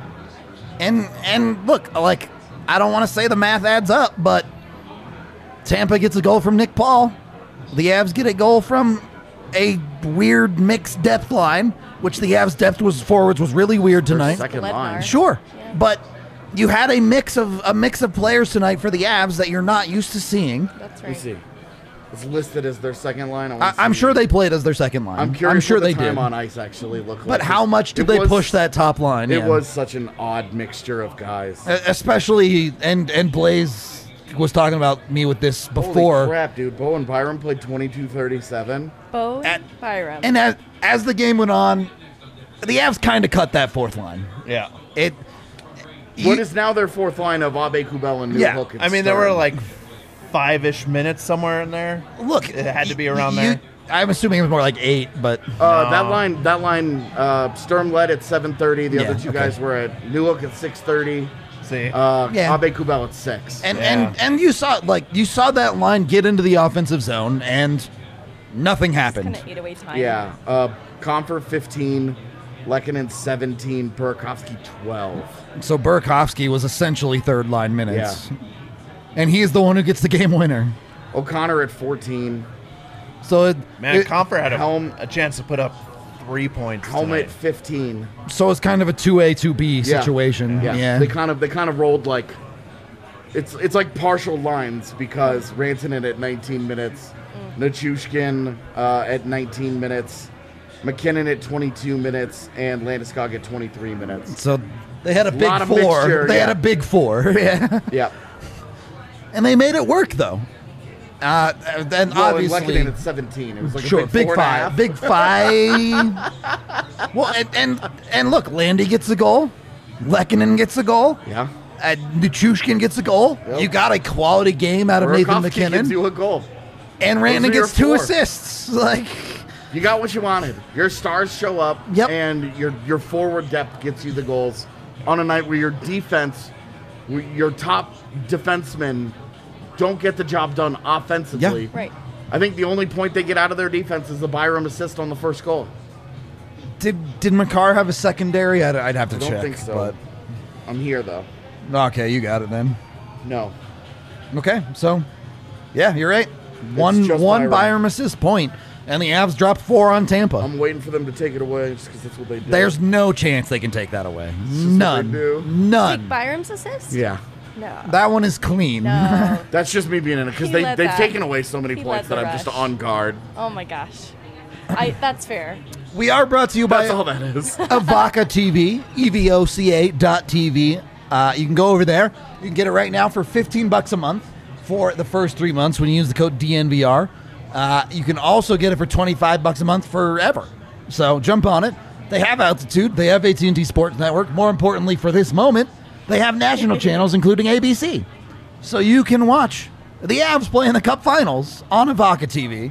And look, like, I don't want to say the math adds up, but Tampa gets a goal from Nick Paul. The Avs get a goal from a weird mixed depth line, which the Avs depth forwards was really weird tonight. Second Lednar. line. Sure, but you had a mix of players tonight for the Avs that you're not used to seeing. That's Let me right. see. It's listed as their second line. I'm sure they played as their second line. I'm curious sure what the they time did. on ice actually looked like. But how much did It they was- push that top line? It Yeah. was such an odd mixture of guys. Especially, and Blaze was talking about me with this before. Holy crap, dude. Bo and Byram played 22-37. Bo At- Byram. And as the game went on, the Avs kind of cut that fourth line. Yeah. What is now their fourth line of Abe Kubel and New Yeah. Hook? and I mean, there were Stern. like 5-ish minutes somewhere in there. Look, It had to be around there. I'm assuming it was more like 8, but That line, Sturm led at 7:30. The Yeah, other two okay. guys were at New Hook at 6:30. See, Yeah. Abe Kubel at 6. and you saw that line get into the offensive zone and nothing happened. Gonna eat away time. Yeah. Comfort 15, Lehkonen 17, Burakovsky 12. So Burakovsky was essentially third line minutes. And he is the one who gets the game winner. O'Connor at 14. So man, Comfer had Helm- a chance to put up 3 points. Helmet tonight. 15. so it's kind of a 2A 2B Yeah. situation. Yeah. They kind of rolled like it's like partial lines because Rantanen at 19 minutes, Nichushkin at 19 minutes, McKinnon at 22 minutes, and Landeskog at 23 minutes. So they had a big Lot of 4. mixture, They had yeah. a big 4. Yeah. Yeah. And they made it work though. Then Well, and obviously Lehkonen at 17. It was like sure, a big 4.5. Big 5. Well, and look, Landy gets a goal. Lehkonen gets a goal. Yeah. Nichushkin gets a goal. Yep. You got a quality game out of Nathan Burakovsky gives McKinnon. you a goal. And Those Randon are your gets 2 4. assists. Like, You got what you wanted. Your stars show up, Yep. and your forward depth gets you the goals on a night where your defense, your top defensemen, don't get the job done offensively. Yeah. Right. I think the only point they get out of their defense is the Byram assist on the first goal. did Makar have a secondary? I'd have to I don't check. think so. But I'm here though. okay, you got it then. No. Okay, so yeah, you're right. One just one Byram. Byram assist point, and the Avs dropped 4 on Tampa. I'm waiting for them to take it away just because that's what they do. There's no chance they can take that away. just what they None. do. None. Take Byram's assist? Yeah. No. That one is clean. No. That's just me being in it because He they've led that. taken away so many He points led that the I'm just rush. on guard. Oh my gosh. That's fair. We are brought to you by That's all that is. Evoca TV, EVOCA.tv. You can go over there. You can get it right now for $15 a month for the first 3 months when you use the code DNVR. You can also get it for $25 a month forever. So jump on it. They have Altitude. They have AT&T Sports Network. More importantly, for this moment, they have national channels, including ABC. So you can watch the Avs play in the Cup Finals on Evoca TV.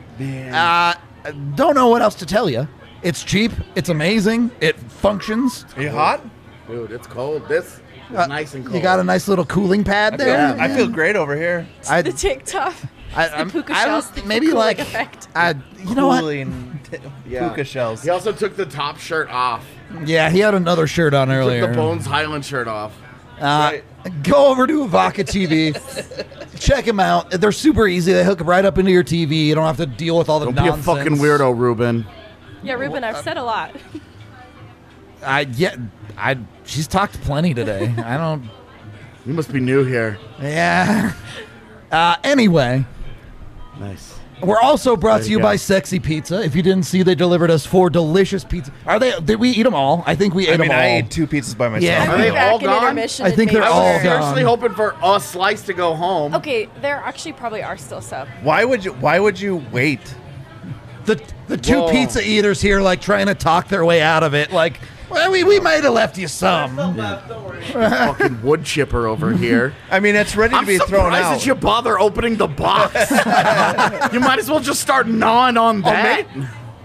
Don't know what else to tell you. It's cheap. It's amazing. It functions. Are you hot? Dude, it's cold. This is nice and cold. You got a nice little cooling pad there. Yeah. I feel great over here. I, The TikTok. I, the puka I shells. don't, The maybe cooling like effect. you know what? Cooling Yeah. puka shells. He also took the top shirt off. Yeah, he had another shirt on earlier. Took the Bones Highland shirt off. Right. Go over to Evoca TV. Check them out. They're super easy. They hook right up into your TV. You don't have to deal with all the Don't nonsense. be a fucking weirdo, Ruben. Yeah, Ruben, I've said a lot. She's talked plenty today. I don't. You must be new here. Yeah. Anyway, Nice. we're also brought There to you you go. by Sexy Pizza. If you didn't see, they delivered us 4 delicious pizza. Did we eat them all? I think we ate I them mean, all. I ate 2 pizzas by myself. Yeah. Are they Back all in gone? intermission I and think made they're I all was sure. gone. seriously hoping for a slice to go home. Okay, there actually probably are still some. Why would you wait? The 2 Whoa. pizza eaters here, like trying to talk their way out of it. Like, well, we might have left you some. Fucking wood chipper over here. I mean, it's ready to I'm be surprised thrown out. that you bother opening the box. You might as well just start gnawing on that.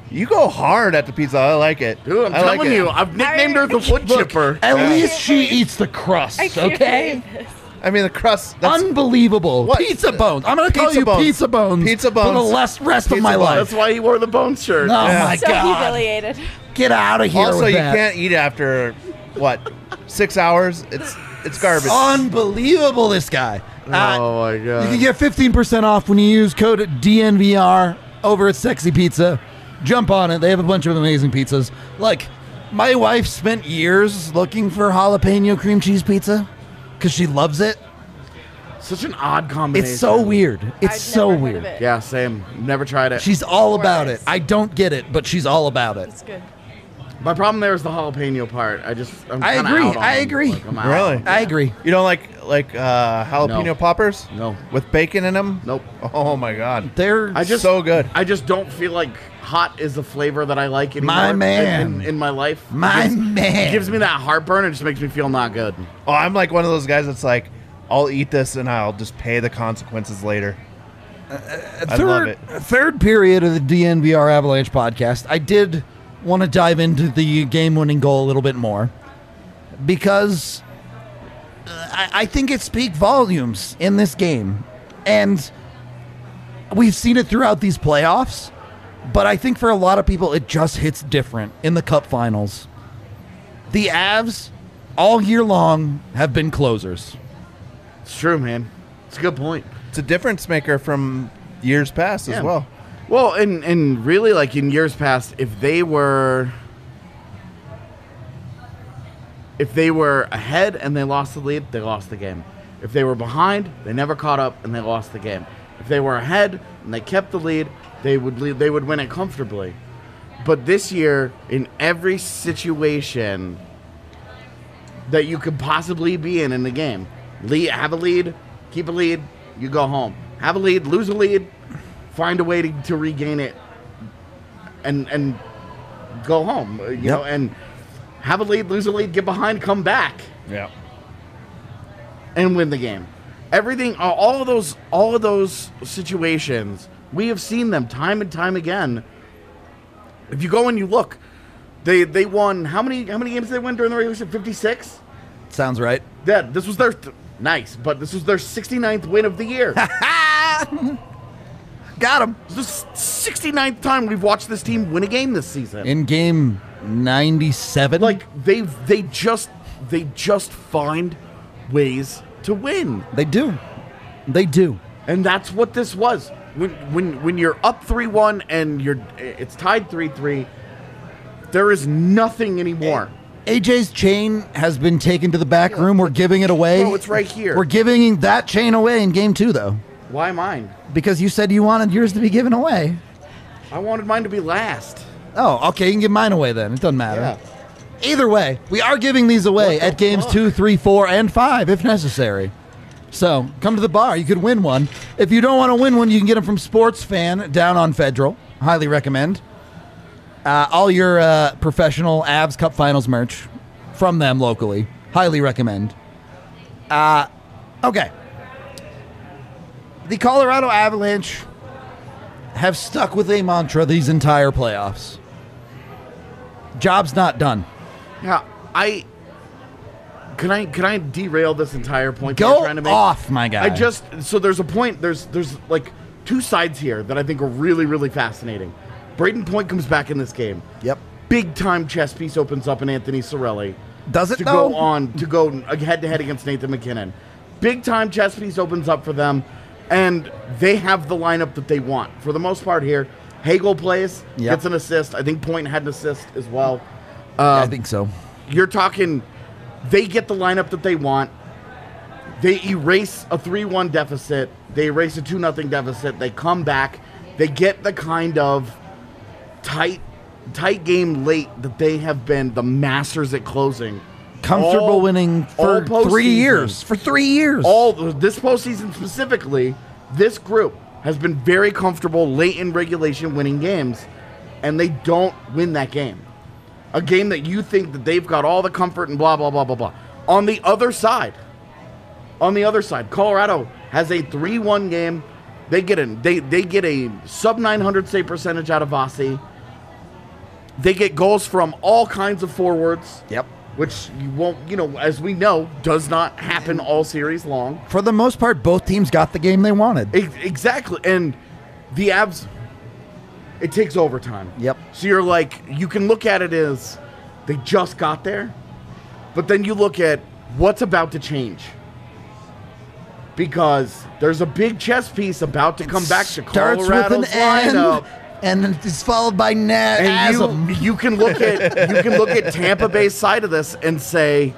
You go hard at the pizza. I like it. Dude, I'm I like telling it. you, I've nicknamed her the wood chipper. At least she eats the crust, I can't okay? believe this. I mean, the crust. That's, Unbelievable. What? Pizza bones. I'm going to call Pizza you bones. pizza bones. Pizza For the bones. rest of Pizza my bones. life. That's why he wore the bone shirt. Oh Yeah. my So God. humiliated. Get out of here also, with you that. can't eat after what 6 hours. It's garbage. Unbelievable, this guy. Oh my You god. can get 15% off when you use code DNVR over at Sexy Pizza. Jump on it. They have a bunch of amazing pizzas. Like, my wife spent years looking for jalapeno cream cheese pizza because she loves it. Such an odd combination. It's so weird. It's I'd so never heard of weird. it. Yeah, same. Never tried it. She's all about it. Worse. I don't get it, but she's all about it. It's good. My problem there is the jalapeno part. I'm I kinda agree. out on I it. agree. Like, I'm out. Really? I agree. You don't like jalapeno No. poppers? No. With bacon in them? Nope. Oh my god. They're So good. I just don't feel like hot is the flavor that I like anymore. My man. in my life. my It just- man. It gives me that heartburn. It just makes me feel not good. Oh, I'm like one of those guys that's like, I'll eat this and I'll just pay the consequences later. I love it. Third period of the DNVR Avalanche podcast, I did want to dive into the game-winning goal a little bit more because I think it speaks volumes in this game, and we've seen it throughout these playoffs. But I think for a lot of people, it just hits different in the Cup Finals. The Avs, all year long, have been closers. It's true, man. It's a good point. It's a difference maker from years past Yeah. as well. Well, and really, like in years past, if they were ahead and they lost the lead, they lost the game. If they were behind, they never caught up and they lost the game. If they were ahead and they kept the lead, they would win it comfortably. But this year, in every situation that you could possibly be in the game, have a lead, keep a lead, you go home. Have a lead, lose a lead, find a way to regain it, and go home. You know, and have a lead, lose a lead, get behind, come back, Yeah. and win the game. Everything, all of those situations, we have seen them time and time again. If you go and you look, they won how many games did they win during the regular season? 56. Sounds right. Yeah, this was their nice, but this was their 69th win of the year. Got him. This is the 69th time we've watched this team win a game this season. In game 97? Like they just find ways to win, They do. They do. and that's what this was. When you're up 3-1 and it's tied 3-3, there is nothing anymore. AJ's chain has been taken to the back room. We're giving it away. No, it's right here. We're giving that chain away in game 2, though, Why mine? because you said you wanted yours to be given away. I wanted mine to be last. Oh, okay. You can give mine away then. It doesn't matter. Yeah. Either way, we are giving these away What the at games fuck? 2, 3, 4, and 5 if necessary. So come to the bar. You could win one. If you don't want to win one, you can get them from Sports Fan down on Federal. Highly recommend. All your professional Avs Cup Finals merch from them locally. Highly recommend. Okay. The Colorado Avalanche have stuck with a mantra these entire playoffs. Job's not done. Yeah, Can I derail this entire point that you're Go trying to make? off, my guy. So there's a point. There's like two sides here that I think are really really fascinating. Braden Point comes back in this game. Yep. Big time chess piece opens up in Anthony Cirelli Does it to though? go head to head against Nathan McKinnon. Big time chess piece opens up for them, and they have the lineup that they want for the most part here. Hagel plays, Yep. gets an assist. I think Point had an assist as well. Yeah, I think so. You're talking, they get the lineup that they want. They erase a 3-1 deficit. They erase a 2-0 deficit. They come back. They get the kind of tight game late that they have been the masters at closing. Comfortable all- winning for all 3 postseason. years. For 3 years. All this postseason specifically, this group has been very comfortable late in regulation winning games, and they don't win that game. A game that you think that they've got all the comfort and blah blah blah blah blah. On the other side, Colorado has a 3-1 game. They get a sub 900 save percentage out of Vasi. They get goals from all kinds of forwards. Yep. Which you won't, as we know, does not happen all series long. For the most part, both teams got the game they wanted. Exactly. And the Avs, it takes overtime. Yep. So you're like, you can look at it as they just got there, but then you look at what's about to change. Because there's a big chess piece about to come back to Colorado's lineup. And it's followed by And you can look at Tampa Bay's side of this and say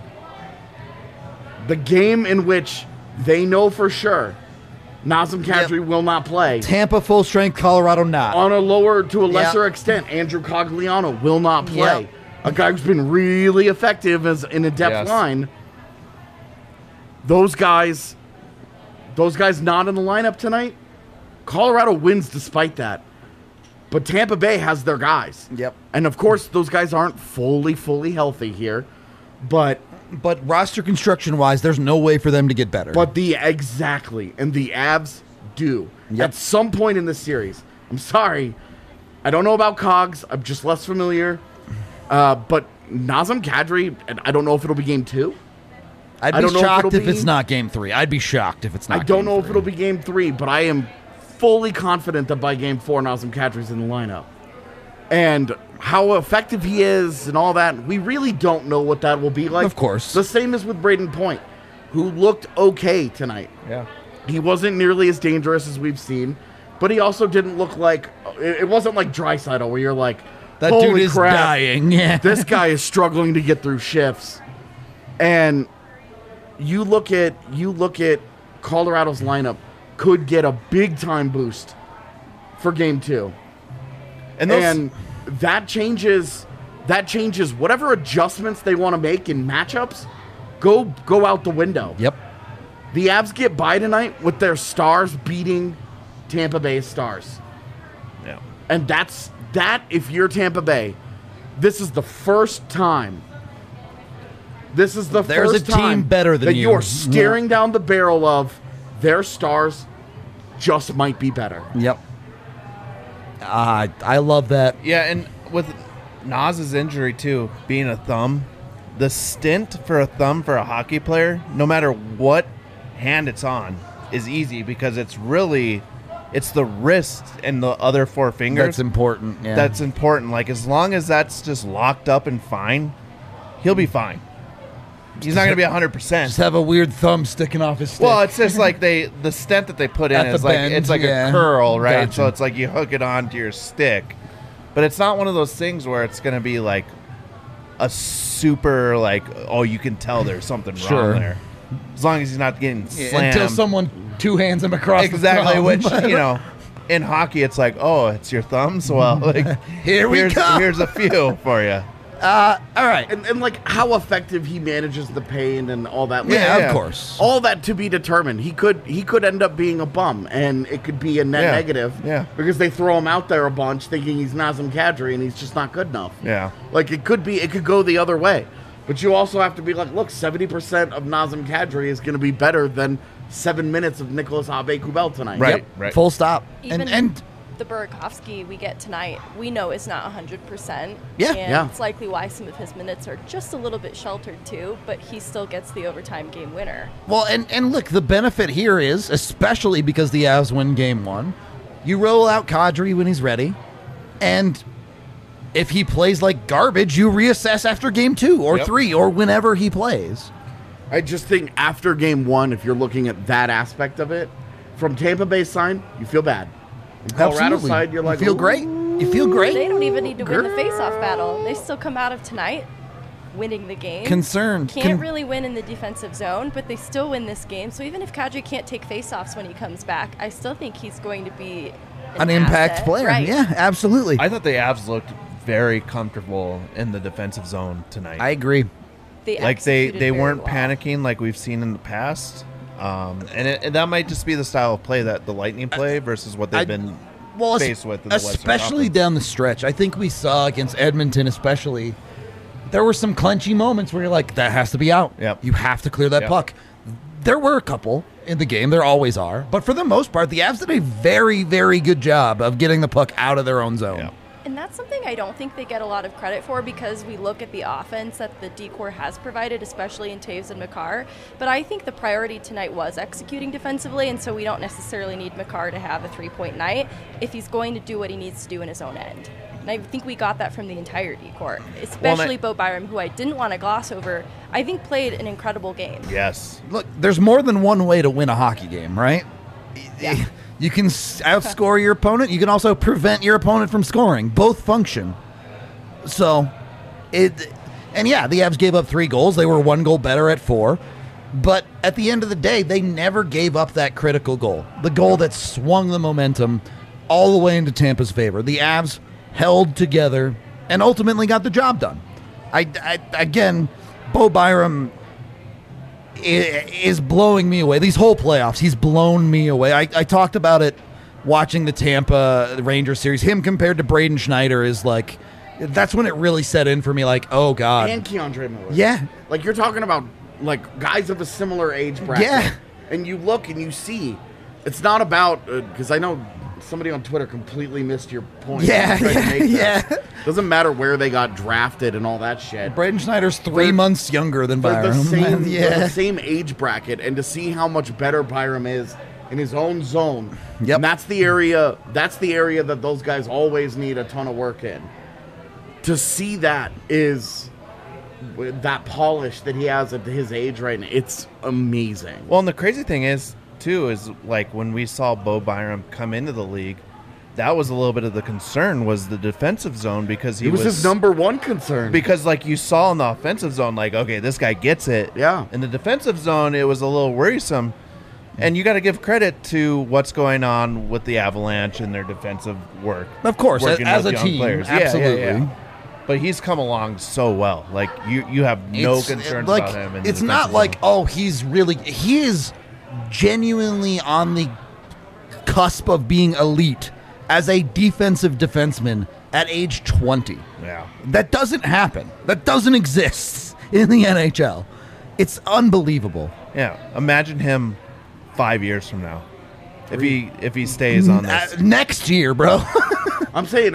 the game in which they know for sure Nazem Kadri will not play. Tampa full strength, Colorado not. On a lower to a lesser extent, Andrew Cogliano will not play. Yep. A guy who's been really effective as in a depth line. Those guys not in the lineup tonight. Colorado wins despite that. But Tampa Bay has their guys. Yep. And of course, those guys aren't fully healthy here. But roster construction-wise, there's no way for them to get better. Exactly. And the Avs do. Yep. At some point in this series. I'm sorry. I don't know about Cogs. I'm just less familiar. But Nazem Kadri, and I don't know if it'll be game 2. I'd be shocked if it's not game 3. I'd be shocked if it's not. I don't know if it'll be game 3, but I am fully confident that by game 4, Nazem Kadri's in the lineup. And how effective he is and all that, we really don't know what that will be like. Of course. The same as with Braden Point, who looked okay tonight. Yeah. He wasn't nearly as dangerous as we've seen, but he also didn't look like, it wasn't like Draisaitl where you're like, that holy dude is crap, dying. Yeah. This guy is struggling to get through shifts. And you look at Colorado's lineup could get a big time boost for game 2. And that changes whatever adjustments they want to make in matchups go out the window. Yep. The Avs get by tonight with their stars beating Tampa Bay's stars. Yeah. And that if you're Tampa Bay, this is the first time There's a team better than that you. you're staring down the barrel of their stars just might be better. Yep. I love that. Yeah, and with Naz's injury too, being a thumb, the stint for a thumb for a hockey player, no matter what hand it's on, is easy because it's the wrist and the other 4 fingers. That's important. Yeah. That's important. Like, as long as that's just locked up and fine, he'll be fine. He's not going to be 100%. Just have a weird thumb sticking off his stick. Well, it's just like the stent that they put in At is the like bend, it's like yeah. a curl, right? Gotcha. So it's like you hook it onto your stick, but it's not one of those things where it's going to be like a super like, oh, you can tell there's something Sure. wrong there. As long as he's not getting slammed. until someone two hands him across Exactly, the which thumb. in hockey it's like, oh, it's your thumbs. Well, like Here come. Here's a few for you. All right. And like how effective he manages the pain and all that. Yeah, Yeah. of course. All that to be determined. He could end up being a bum, and it could be a net Yeah. negative. Yeah. Because they throw him out there a bunch, thinking he's Nazem Kadri, and he's just not good enough. Yeah. Like it could go the other way, but you also have to be like, look, 70% of Nazem Kadri is going to be better than 7 minutes of Nicholas Aube-Kubel tonight. Right. Yep. right. Full stop. Even and the Burakovsky we get tonight, we know is not 100%. Yeah. And Yeah. it's likely why some of his minutes are just a little bit sheltered too, but he still gets the overtime game winner. well, and look, the benefit here is, especially because the Avs win game 1, you roll out Kadri when he's ready, and if he plays like garbage, you reassess after game 2 or Yep. 3 or whenever he plays. I just think after game 1, if you're looking at that aspect of it, from Tampa Bay's side, you feel bad. From Colorado's Absolutely. side, you're like, you feel "Ooh." great. You feel great. They don't even need to win the face-off battle. They still come out of tonight winning the game. Concerned. Can't really win in the defensive zone, but they still win this game. So even if Kadri can't take face-offs when he comes back, I still think he's going to be an impact asset. player. Right. Yeah, absolutely. I thought the Avs looked very comfortable in the defensive zone tonight. I agree. They like they executed very weren't well. panicking like we've seen in the past, and that might just be the style of play that the Lightning play versus what they've been faced with in the Western especially Conference. down the stretch. I think we saw against Edmonton, especially, there were some clenchy moments where you're like, that has to be out. Yep. You have to clear that Yep. puck. There were a couple in the game. There always are. But for the most part, the Avs did a very, very good job of getting the puck out of their own zone. Yeah. And that's something I don't think they get a lot of credit for, because we look at the offense that the D-Corps has provided, especially in Toews and Makar. But I think the priority tonight was executing defensively, and so we don't necessarily need Makar to have a 3-point night if he's going to do what he needs to do in his own end. And I think we got that from the entire D-Corps, especially Bo Byram, who I didn't want to gloss over. I think played an incredible game. Yes. Look, there's more than one way to win a hockey game, right? Yeah. You can outscore your opponent. You can also prevent your opponent from scoring. Both function. So, the Avs gave up 3 goals. They were 1 goal better at 4. But at the end of the day, they never gave up that critical goal. The goal that swung the momentum all the way into Tampa's favor. The Avs held together and ultimately got the job done. Again, Bo Byram is blowing me away. These whole playoffs, he's blown me away. I talked about it watching the Tampa Rangers series. Him compared to Braden Schneider is like, that's when it really set in for me, like, oh, God. And Keandre Miller. Yeah. Like, you're talking about, like, guys of a similar age bracket. Yeah. And you look and you see, it's not about, because I know somebody on Twitter completely missed your point. Yeah. Doesn't matter where they got drafted and all that shit. Braden Schneider's 3 months younger than They're Byram. they're the same age bracket, and to see how much better Byram is in his own zone. Yep. And that's the area that those guys always need a ton of work in. To see that is that polish that he has at his age right now, it's amazing. Well, and the crazy thing is, too, is like when we saw Bo Byram come into the league, that was a little bit of the concern, was the defensive zone, because he was his number one concern. Because like you saw in the offensive zone, like, okay, this guy gets it. Yeah. In the defensive zone, it was a little worrisome. And you got to give credit to what's going on with the Avalanche and their defensive work. Of course, working as with a young team, players. absolutely. Yeah. But he's come along so well. Like, you have no concerns like, about him. In the it's not defensive like, zone. oh, he is genuinely on the cusp of being elite as a defensive defenseman at age 20. Yeah. That doesn't happen. That doesn't exist in the NHL. It's unbelievable. Yeah. Imagine him 5 years from now. If he stays on this. Next year, bro. I'm saying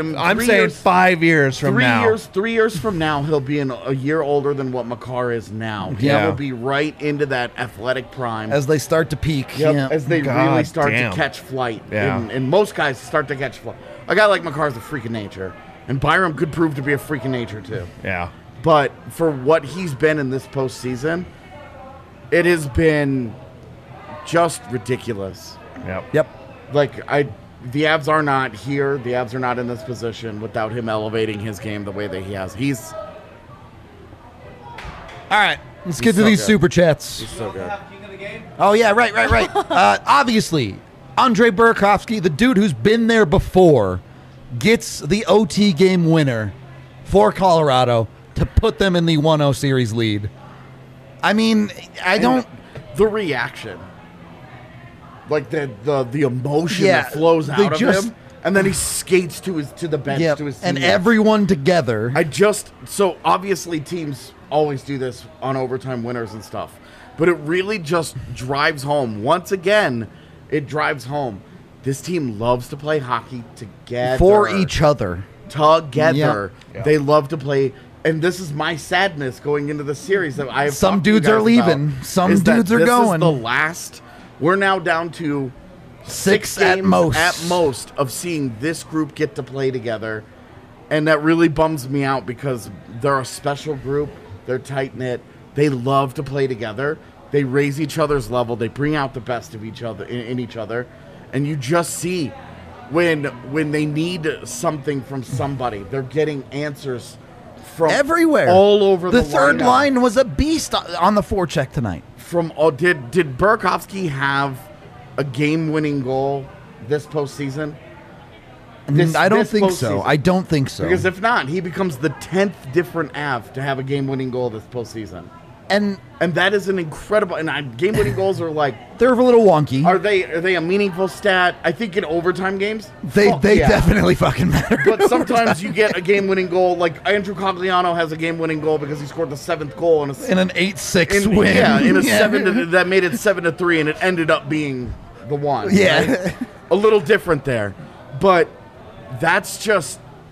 5 years from now. 3 years from now, he'll be a year older than what Makar is now. Yeah. He'll be right into that athletic prime. As they start to peak. Yep, Yeah. as they God really start damn. to catch flight. Yeah. And most guys start to catch flight. A guy like Makar's a freak of nature. And Byram could prove to be a freak of nature, too. Yeah. But for what he's been in this postseason, it has been just ridiculous. Yep. Like, the Avs are not here. The Avs are not in this position without him elevating his game the way that he has. He's All right. Let's get to so these good. super chats. so good. Oh, yeah, right. Obviously, Andre Burakovsky, the dude who's been there before, gets the OT game winner for Colorado to put them in the 1-0 series lead. I mean, The reaction. Like the emotion Yeah, that flows they out of just- him. And then he skates to the bench Yep, to his and teammates. everyone together. So obviously teams always do this on overtime winners and stuff. But it really just drives home. Once again, it drives home. This team loves to play hockey together. For each other. Together. Yep. They love to play. And this is my sadness going into the series that I have Some talked to you dudes are guys leaving. about, Some is that dudes are this going. Is the last. We're now down to Six games at most. of seeing this group get to play together. And that really bums me out because they're a special group. They're tight-knit. They love to play together. They raise each other's level. They bring out the best of each other in each other. And you just see when they need something from somebody, they're getting answers from Everywhere. all over the third lineup. line was a beast on the forecheck tonight. Did Burakovsky have a game-winning goal this postseason? I don't this think so. postseason. I don't think so. Because if not, he becomes the 10th different Av to have a game-winning goal this postseason. and And that is an incredible. And game-winning goals are like, they're a little wonky. are they a meaningful stat? I think in overtime games, They fuck yeah. definitely fucking matter. But sometimes you get a game-winning goal. Like Andrew Cogliano has a game-winning goal because he scored the 7th goal in in an 8-6 win. Yeah, in a 7 that made it 7-3, and it ended up being the one. Yeah. right? A little different there, but that's just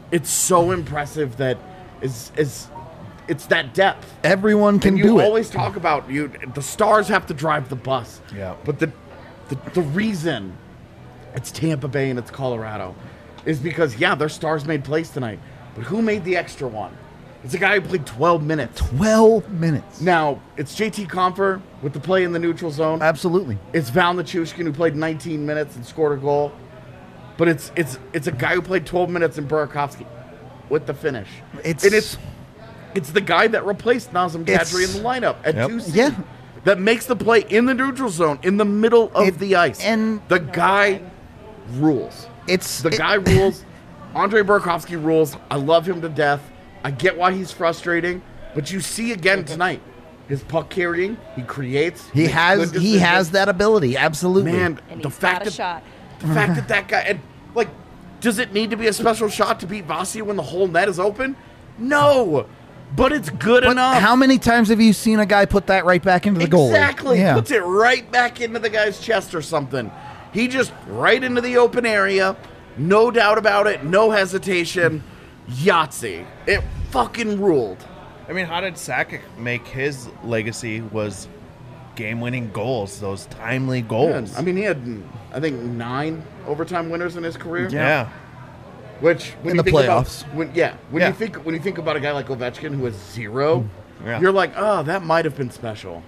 it's so impressive that is it's that depth. Everyone can And do you it. always talk about the stars have to drive the bus. Yeah. But the reason it's Tampa Bay and it's Colorado is because their stars made plays tonight. But who made the extra one? It's a guy who played 12 minutes. 12 minutes. Now, it's JT Compher with the play in the neutral zone. Absolutely. It's Val Nichushkin who played 19 minutes and scored a goal. But it's a guy who played 12 minutes in Burakovsky with the finish. It's the guy that replaced Nazem Kadri in the lineup at 2C. Yeah. That makes the play in the neutral zone, in the middle of the ice. And the guy rules. The guy rules. Andre Burakovsky rules. I love him to death. I get why he's frustrating, but you see again tonight, his puck carrying, he creates. He has that ability. Absolutely. Man, And the he's fact got a shot. that guy, and like, does it need to be a special shot to beat Vasi when the whole net is open? No, but it's good But enough. how many times have you seen a guy put that right back into the goal? Exactly. Yeah. Puts it right back into the guy's chest or something. He just right into the open area. No doubt about it. No hesitation. Yahtzee. It fucking ruled. I mean, how did Sakic make his legacy was game-winning goals, those timely goals? I mean, he had, I think, 9 overtime winners in his career. Yeah. Which when In you the think playoffs. About, Yeah. when you think about a guy like Ovechkin who has 0, Yeah. you're like, oh, that might have been special.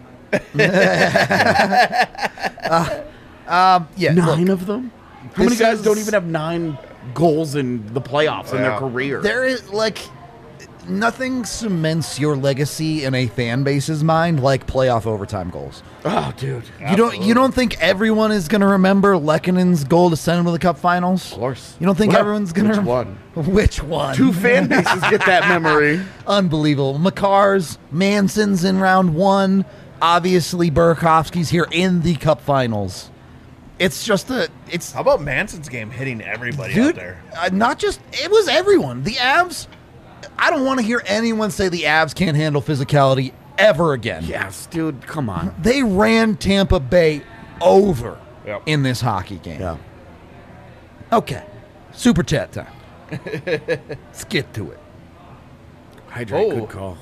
Yeah. 9 of them? How many this guys is- don't even have 9 goals in the playoffs in their Yeah. career? There is nothing cements your legacy in a fan base's mind like playoff overtime goals. Oh, dude. You don't think everyone is going to remember Lekkonen's goal to send him to the Cup Finals? Of course. You don't think Well, everyone's going to which one? Which one? 2 fan bases get that memory. Unbelievable. Makar's, Manson's in round 1. Obviously, Burakovsky's here in the Cup Finals. It's just How about Manson's game hitting everybody out dude. there? Not just it was everyone. The Avs. I don't want to hear anyone say the Avs can't handle physicality ever again. Yes, dude, come on. They ran Tampa Bay over Yep. in this hockey game. Yeah. Okay, super chat time. Let's get to it. Hydrate, Oh. good call.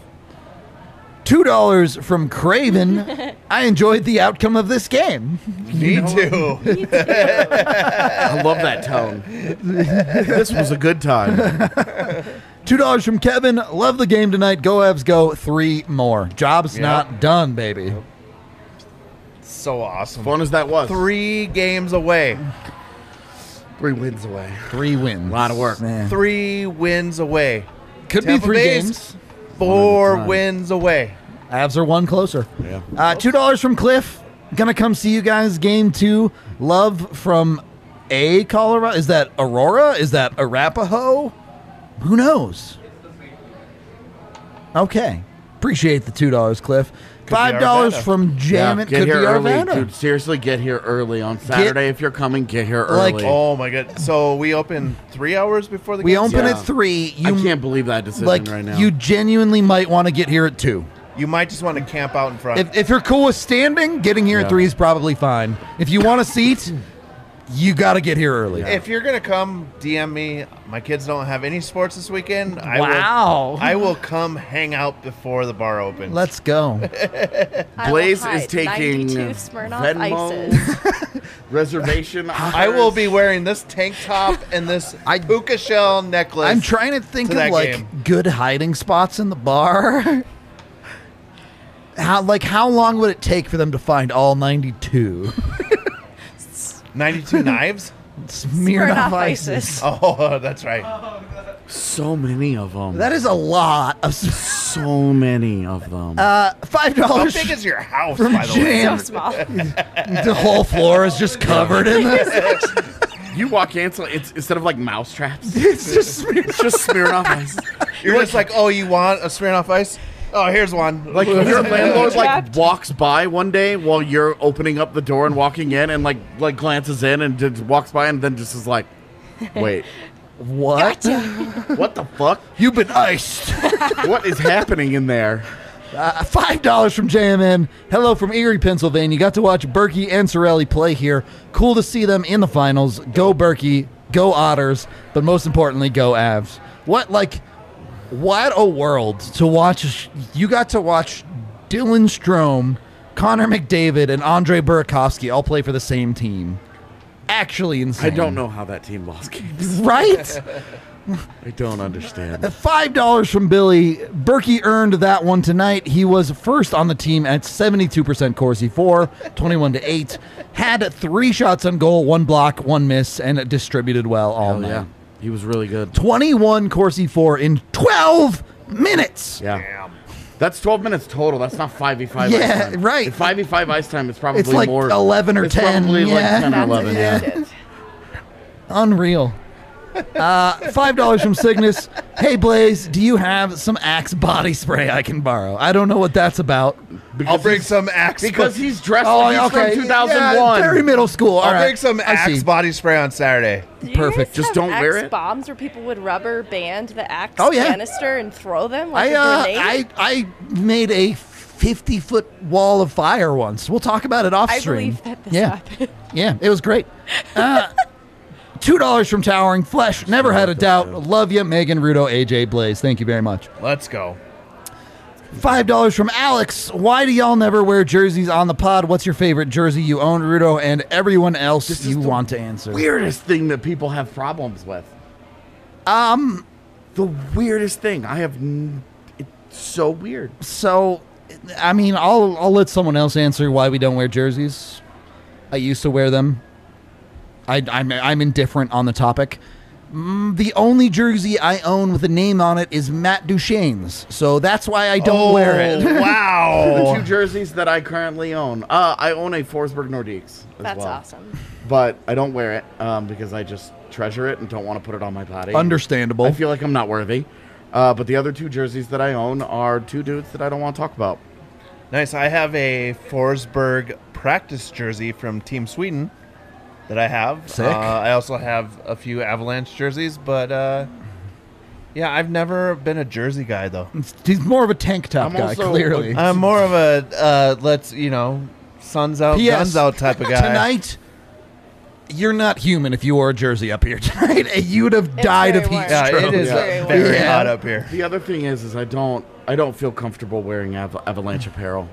$2 from Craven. I enjoyed the outcome of this game. Me too. I love that tone. This was a good time. $2 from Kevin. Love the game tonight. Go Avs, go. 3 more. Job's not done, baby. So awesome. Fun as that was. 3 games away. 3 wins away. 3 wins. Lot of work. Man. 3 wins away. Could Tampa be 3 Bay's games. 4 time. wins away. Avs are 1 closer. Yeah. $2 from Cliff. Gonna come see you guys game 2. Love from Colorado. Is that Aurora? Is that Arapahoe? Who knows? Okay. Appreciate the $2, Cliff. $5 Arvada. from Jammin. Get Could here be early, Arvada. dude. Seriously, get here early on Saturday. If you're coming, get here Like- early. Oh my god! So we open 3 hours before the We game open starts? at 3. I can't believe that decision like right now. you genuinely might want to get here at 2. You might just want to camp out in front. If you're cool with standing, getting here at Yeah. 3 is probably fine. If you want a seat, you got to get here early. If you're gonna come, DM me. My kids don't have any sports this weekend. Wow. I will come hang out before the bar opens. Let's go. I will Blaze is hide taking 92 Smirnoff Venmo. Ices. Reservation. I will be wearing this tank top and this puka shell necklace. I'm trying to think to of that like game. good hiding spots in the bar. How long would it take for them to find all 92? 92 knives. Smirnoff Ices. Oh, that's right. So many of them. That is a lot of. So many of them. $5 How big is your house, from by the way? Jam. So small. The whole floor is just covered in this. You walk in, so it's instead of like mouse traps, It's just Smirnoff. it's just Smirnoff Ice. You're just like, oh, you want a Smirnoff Ice? Oh, here's one. Like your landlord like Trapped. walks by one day while you're opening up the door and walking in, and like glances in and just walks by and then just is like, wait, What? what the fuck? You've been iced. What is happening in there? $5 from JMN. Hello from Erie, Pennsylvania. Got to watch Berkey and Sorelli play here. Cool to see them in the finals. Go Berkey. Go Otters, but most importantly, go Avs. What a world to watch. You got to watch Dylan Strome, Connor McDavid, and Andre Burakovsky all play for the same team. Actually insane. I don't know how that team lost games. Right? I don't understand. $5 from Billy. Berkey earned that one tonight. He was first on the team at 72% Corsi 4, 21-8. Had 3 shots on goal, 1 block, 1 miss, and distributed well all night. Yeah, he was really good. 21 Corsi 4 in 12 minutes. Yeah. Damn. That's 12 minutes total. That's not 5v5 Yeah, ice time. right. If 5v5 ice time, it's probably It's like more. 11 or it's 10. Probably Yeah. like 10 or That's 11, yeah. shit. Unreal. $5 from Cygnus. Hey, Blaze, do you have some Axe body spray I can borrow? I don't know what that's about. I'll bring some Axe. Because he's dressed Oh, like he's okay. from 2001. Yeah, very middle school. All I'll right. bring some I see. Axe body spray on Saturday. Do you Perfect. guys Just have don't wear Axe it. bombs where people would rubber band the Axe Oh, yeah. canister and throw them like a grenade? I made a 50-foot wall of fire once. We'll talk about it off I stream. believe that this yeah. happened. Yeah, it was great. $2 from Towering Flesh. Never had a doubt. Love you, Megan, Rudo, AJ, Blaze. Thank you very much. Let's go. $5 from Alex. Why do y'all never wear jerseys on the pod? What's your favorite jersey you own, Rudo, and everyone else This is you the want to answer? Weirdest thing that people have problems with. The weirdest thing. It's so weird. So, I mean, I'll let someone else answer why we don't wear jerseys. I used to wear them. I'm indifferent on the topic. The only jersey I own with a name on it is Matt Duchene's, so that's why I don't wear it. The Wow. 2 jerseys that I currently own. I own a Forsberg Nordiques as That's well. awesome. But I don't wear it because I just treasure it and don't want to put it on my body. Understandable. I feel like I'm not worthy. But the other 2 jerseys that I own are 2 dudes that I don't want to talk about. Nice. I have a Forsberg practice jersey from Team Sweden that I have. Sick. I also have a few Avalanche jerseys, but yeah, I've never been a jersey guy though. He's more of a tank top I'm guy, also- clearly. I'm more of a suns out, P.S. guns out type of guy. Tonight, you're not human if you wore a jersey up here tonight. You would have died of very heat warm. Yeah, stroke. it is Yeah. very Yeah. hot up here. The other thing is I don't feel comfortable wearing Avalanche apparel.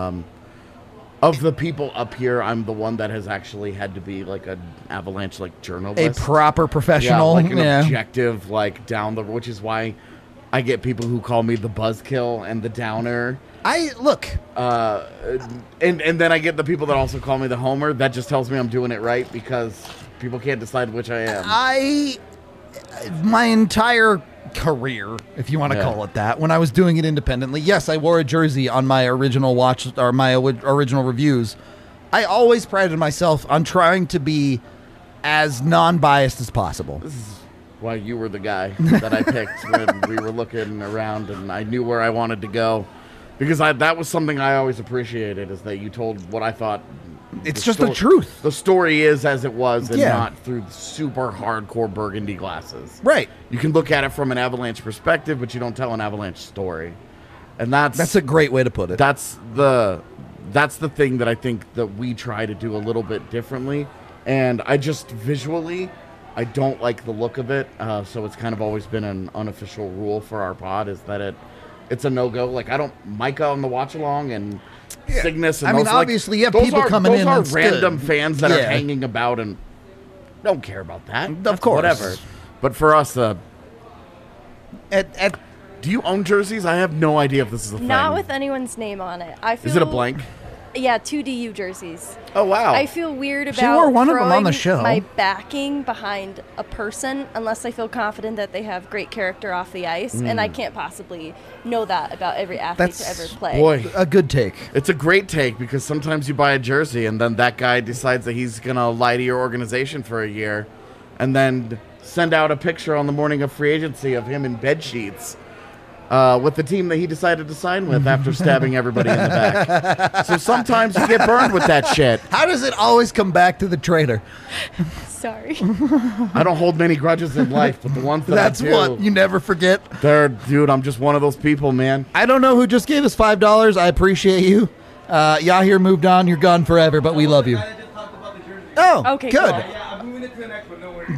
Of the people up here, I'm the one that has actually had to be like an Avalanche A journalist. proper professional. like an yeah. objective, which is why I get people who call me the buzzkill and the downer. Look. And then I get the people that also call me the homer. That just tells me I'm doing it right because people can't decide which I am. My entire career, if you want to Yeah. call it that, when I was doing it independently, yes, I wore a jersey on my original original reviews. I always prided myself on trying to be as non-biased as possible. This is why you were the guy that I picked when we were looking around and I knew where I wanted to go. Because that was something I always appreciated, is that you told what I thought. It's just the truth. The story is as it was and Yeah. not through super hardcore burgundy glasses. Right. You can look at it from an Avalanche perspective, but you don't tell an Avalanche story. And That's a great way to put it. that's the thing that I think that we try to do a little bit differently. And I just visually, I don't like the look of it. So it's kind of always been an unofficial rule for our pod is that it's a no-go. Like, I don't Micah on the watch along and Cygnus and I mean, those, like, obviously, you have those people are- coming in, Those that's are random good. fans that are Yeah. hanging about and don't care about that. Of That's course. whatever. But for us, At do you own jerseys? I have no idea if this is a thing. Not with anyone's name on it. I feel Is it a blank? Yeah, 2 DU jerseys. Oh wow! I feel weird about She wore one of them on the throwing show. my backing behind a person unless I feel confident that they have great character off the ice, and I can't possibly know that about every athlete to That's- ever play. Boy, a good take. it's a great take because sometimes you buy a jersey and then that guy decides that he's gonna lie to your organization for a year, and then send out a picture on the morning of free agency of him in bed sheets. With the team that he decided to sign with after stabbing everybody in the back. So sometimes you get burned with that shit. How does it always come back to the traitor? Sorry. I don't hold many grudges in life, but the ones that That's I do, what you never forget. dude, I'm just one of those people, man. I don't know who just gave us $5. I appreciate you. Yahir moved on. You're gone forever, but we love you. Oh, Okay, good. cool. Yeah, I'm moving it to the next one. No worries.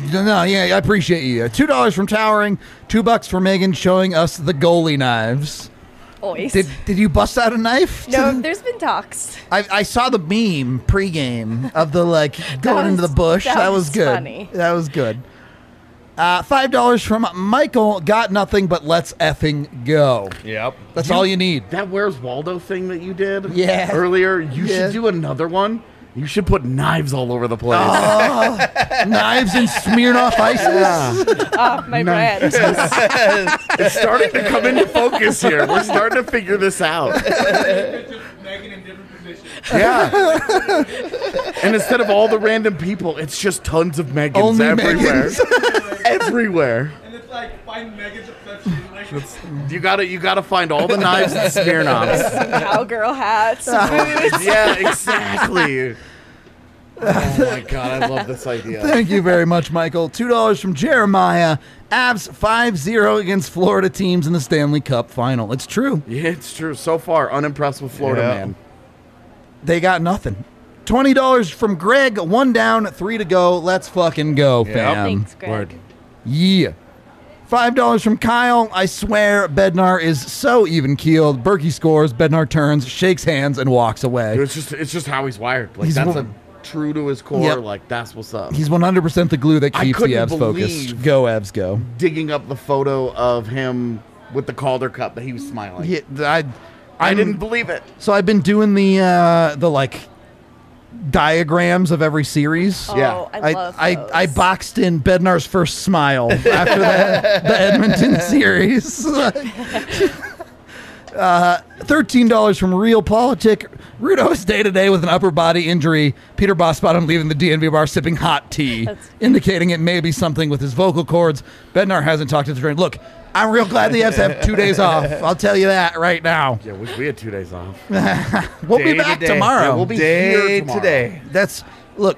No, yeah, I appreciate you. $2 from Towering, $2 for Megan showing us the goalie knives. Always. Did you bust out a knife? No, there's been talks. I saw the meme pregame of the going into the bush. That was good. Funny. That was good. $5 from Michael. Got nothing, but let's effing go. Yep. That's all you need. That Where's Waldo thing that you did Yeah. earlier, you Yeah. should do another one. You should put knives all over the place. Knives and Smirnoff Ices. Oh, my brand. It's starting to come into focus here. We're starting to figure this out. Megan in different positions. Yeah. And instead of all the random people, it's just tons of Megans Only everywhere. Megans. Everywhere. And it's like find Megan's obsession. Like, You gotta find all the knives and Smirnoffs. Cowgirl hats, boots. Yeah, exactly. Oh my god, I love this idea. Thank you very much, Michael. $2 from Jeremiah. Avs 5-0 against Florida teams in the Stanley Cup final. It's true. Yeah, it's true. So far, unimpressed with Florida, Yeah. man. They got nothing. $20 from Greg. 1 down, 3 to go. Let's fucking go, fam. Thanks, Greg. Word. Yeah. $5 from Kyle. I swear Bednar is so even keeled. Berkey scores. Bednar turns, shakes hands, and walks away. It's just how he's wired. Like He's that's one- true to his core. Yep. Like that's what's up. He's 100% the glue that I keeps the couldn't Avs focused. believe- Go, Avs, go. Digging up the photo of him with the Calder Cup that he was smiling. Yeah, I I'm- didn't believe it. So I've been doing the diagrams of every series. Oh, Yeah. I love those. I boxed in Bednar's first smile after the Edmonton series. $13 from Real Politic. Rudo is day-to-day with an upper body injury. Peter Bossbottom leaving the DNV bar sipping hot tea, indicating it may be something with his vocal cords. Bednar hasn't talked to the train. Look, I'm real glad the Fs have 2 days off. I'll tell you that right now. Yeah, wish we had 2 days off. We'll be Day to back day. tomorrow. Yeah, we'll be Day here tomorrow. today. That's look.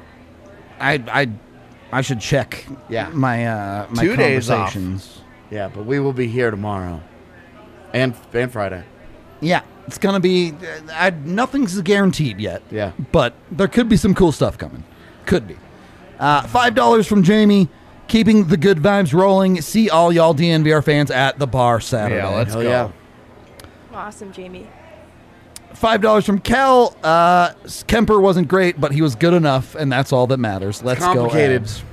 I should check. Yeah. My 2 days off. conversations. Yeah, but we will be here tomorrow. And Friday. Yeah, it's gonna be. Nothing's guaranteed yet. Yeah. but there could be some cool stuff coming. Could be. $5 from Jamie. Keeping the good vibes rolling. See all y'all DNVR fans at the bar Saturday. Yeah, let's Hell go. yeah. Awesome, Jamie. $5 from Cal. Kemper wasn't great, but he was good enough, and that's all that matters. Let's go. Complicated. Avs.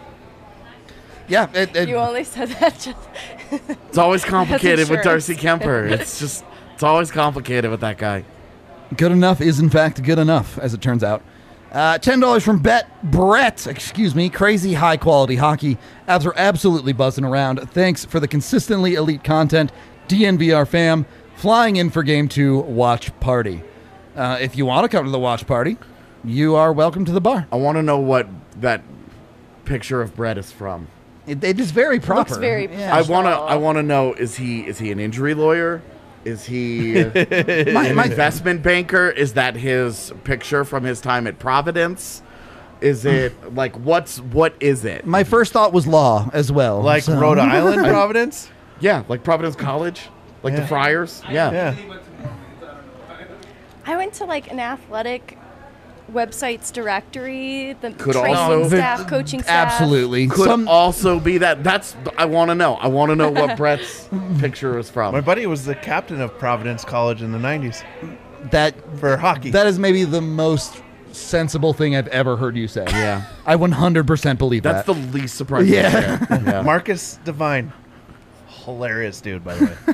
Yeah, You only said that just. It's always complicated with insurance. Darcy Kemper. It's always complicated with that guy. good enough is in fact good enough, as it turns out. $10 from Brett, crazy high quality hockey. Avs are absolutely buzzing around. Thanks for the consistently elite content. DNVR fam, flying in for game 2 watch party. If you want to come to the watch party, you are welcome to the bar. I want to know what that picture of Brett is from. It is very proper. Looks very yeah. I want to know, is he an injury lawyer? Is he an my investment banker? Is that his picture from his time at Providence? Is it like what is it? my first thought was law as well. Like so- Rhode Island, Providence? Yeah, like Providence College, like the Yeah. Friars. Yeah. Yeah. he went to Mormons, I don't know. I went to like an athletic websites directory, the Could training also- staff, coaching staff. Absolutely. Could also be that. That's I want to know. I want to know what Brett's picture is from. My buddy was the captain of Providence College in the 90s that for hockey. that is maybe the most sensible thing I've ever heard you say. Yeah, I 100% believe that's that. the least surprising. Yeah. thing. Yeah. Marcus Devine. Hilarious dude, by the way.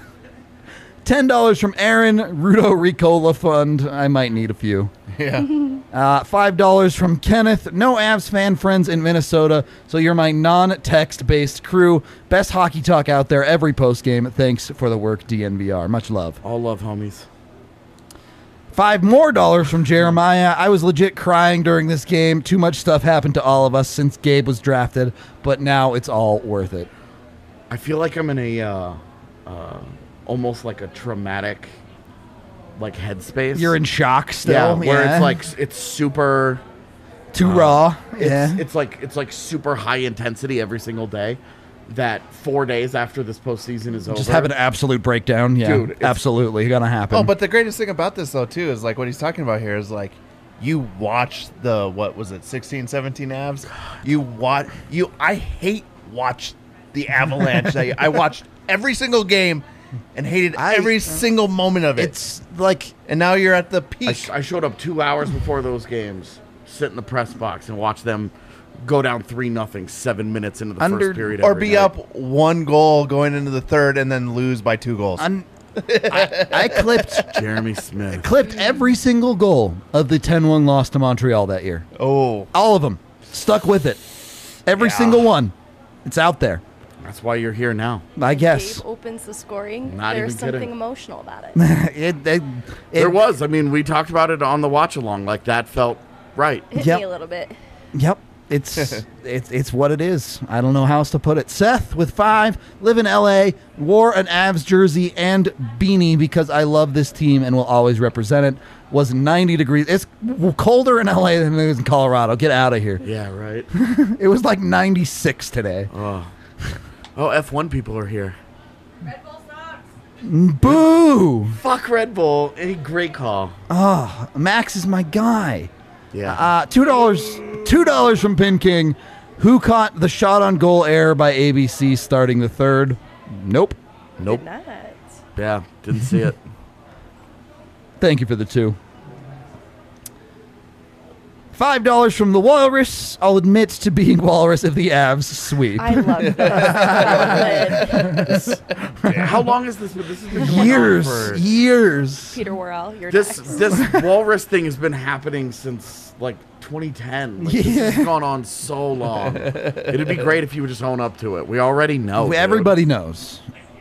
$10 from Aaron, Rudo Ricola Fund. I might need a few. Yeah. $5 from Kenneth. No Avs fan friends in Minnesota, so you're my non-text based crew. Best hockey talk out there every post game. Thanks for the work, DNVR. Much love. All love, homies. $5 more from Jeremiah. I was legit crying during this game. Too much stuff happened to all of us since Gabe was drafted, but now it's all worth it. I feel like I'm in a almost like a traumatic like headspace. You're in shock yeah, still. where it's like it's super. too raw. It's like super high intensity every single day. That 4 days after this postseason is over, Just have an absolute breakdown. Yeah, Dude, it's- absolutely gonna happen. Oh, but the greatest thing about this, though, too, is like what he's talking about here is like you watch the, what was it, 16, 17 Avs? I hate watch the Avalanche. I watched every single game and hated every single moment of it. It's like, and now you're at the peak. I showed up 2 hours before those games, sit in the press box and watch them go down 3-0 7 minutes into the first period. Or every be night. up 1 goal going into the third and then lose by 2 goals. I clipped Jeremy Smith. every single goal of the 10-1 loss to Montreal that year. Oh. All of them. Stuck with it. Every single one. It's out there. That's why you're here now. I guess. Gabe opens the scoring. Not There's even kidding. something emotional about it. There was. I mean, we talked about it on the watch along. Like, that felt right. Hit Yep. me a little bit. Yep. It's what it is. I don't know how else to put it. Seth with 5, live in LA, wore an Avs jersey and beanie because I love this team and will always represent it. Was 90 degrees. It's colder in LA than it is in Colorado. Get out of here. Yeah, right. It was like 96 today. Oh, F1 people are here. Red Bull sucks. Boo! Fuck Red Bull. Any great call. Max is my guy. Yeah. $2 from Pin King. Who caught the shot on goal error by ABC starting the third? Nope. Nope. Did not. Yeah, didn't see it. Thank you for the 2. $5 from the Walrus. I'll admit to being Walrus if the Avs sweep. I love this. How long is this? This has been going on Years. for- Years. Peter Worrell, you're This next. this walrus thing has been happening since like 2010. Like, This has gone on so long. It'd be great if you would just own up to it. We already know. dude. Everybody knows.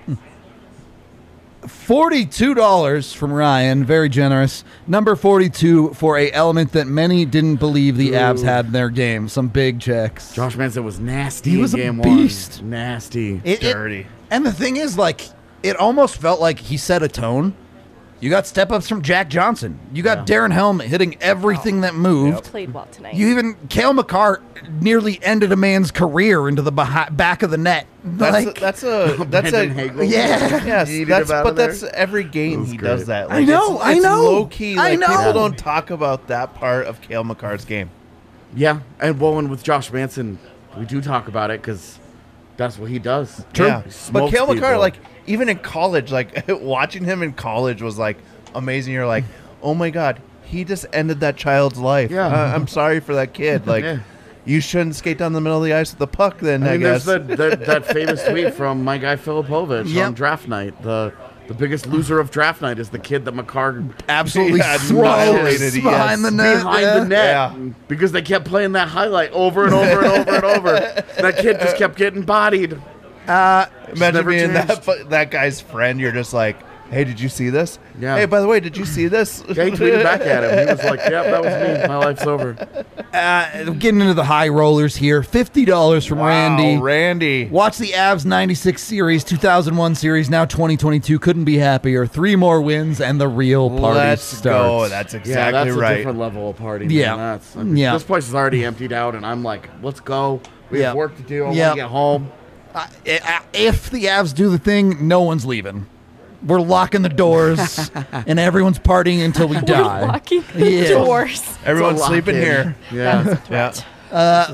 $42 from Ryan, very generous. Number 42 for a element that many didn't believe the Avs had in their game. Some big checks. Josh Manson was nasty He was a in game beast. 1. Nasty. Dirty. And the thing is, like, it almost felt like he set a tone. You got step-ups from Jack Johnson. You got Darren Helmet hitting everything that moved. Played well tonight. You even, Cale Makar nearly ended a man's career into the back of the net. That's a Brandon Hagel. Yeah. Yes, Yeeted that's him out but of there. that's every game was he great. does that. I know, I know. Low key. I Like, know. people don't talk about that part of Cale Makar's game. Yeah, and with Josh Manson, we do talk about it because that's what he does. Yeah. He But smokes Cale Makar, people. like even in college, like watching him in college was like amazing. You're like, oh my god, he just ended that child's life. Yeah. I'm sorry for that kid. Like, Yeah. you shouldn't skate down the middle of the ice with the puck. Then I I mean, guess. there's that famous tweet from my guy Filipovich Yep. on draft night. The biggest loser of draft night is the kid that Makar Absolutely Yeah, smokes annihilated, yes. behind the net. behind the net Yeah. because they kept playing that highlight over and over and over and over. That kid just kept getting bodied. Imagine never being changed. that guy's friend. You're just like, hey, did you see this? Yeah. Hey, by the way, did you see this? Yeah, he tweeted back at him. He was like, "Yep, that was me. My life's over." Getting into the high rollers here. $50 from Randy. Randy. Watch the Avs 96 series, 2001 series, now 2022. Couldn't be happier. 3 more wins and the real party Let's starts. go. That's Yeah, exactly that's a right. different level of party. Yeah. Man. Yeah. This place is already emptied out, and I'm like, "Let's go. We Yeah. have work to do. I Yeah. want to get home." If the Avs do the thing, no one's leaving. We're locking the doors, and everyone's partying until we die. Locking Yeah. doors. Everyone's It's a sleeping lock-in. here. Yeah. Yeah.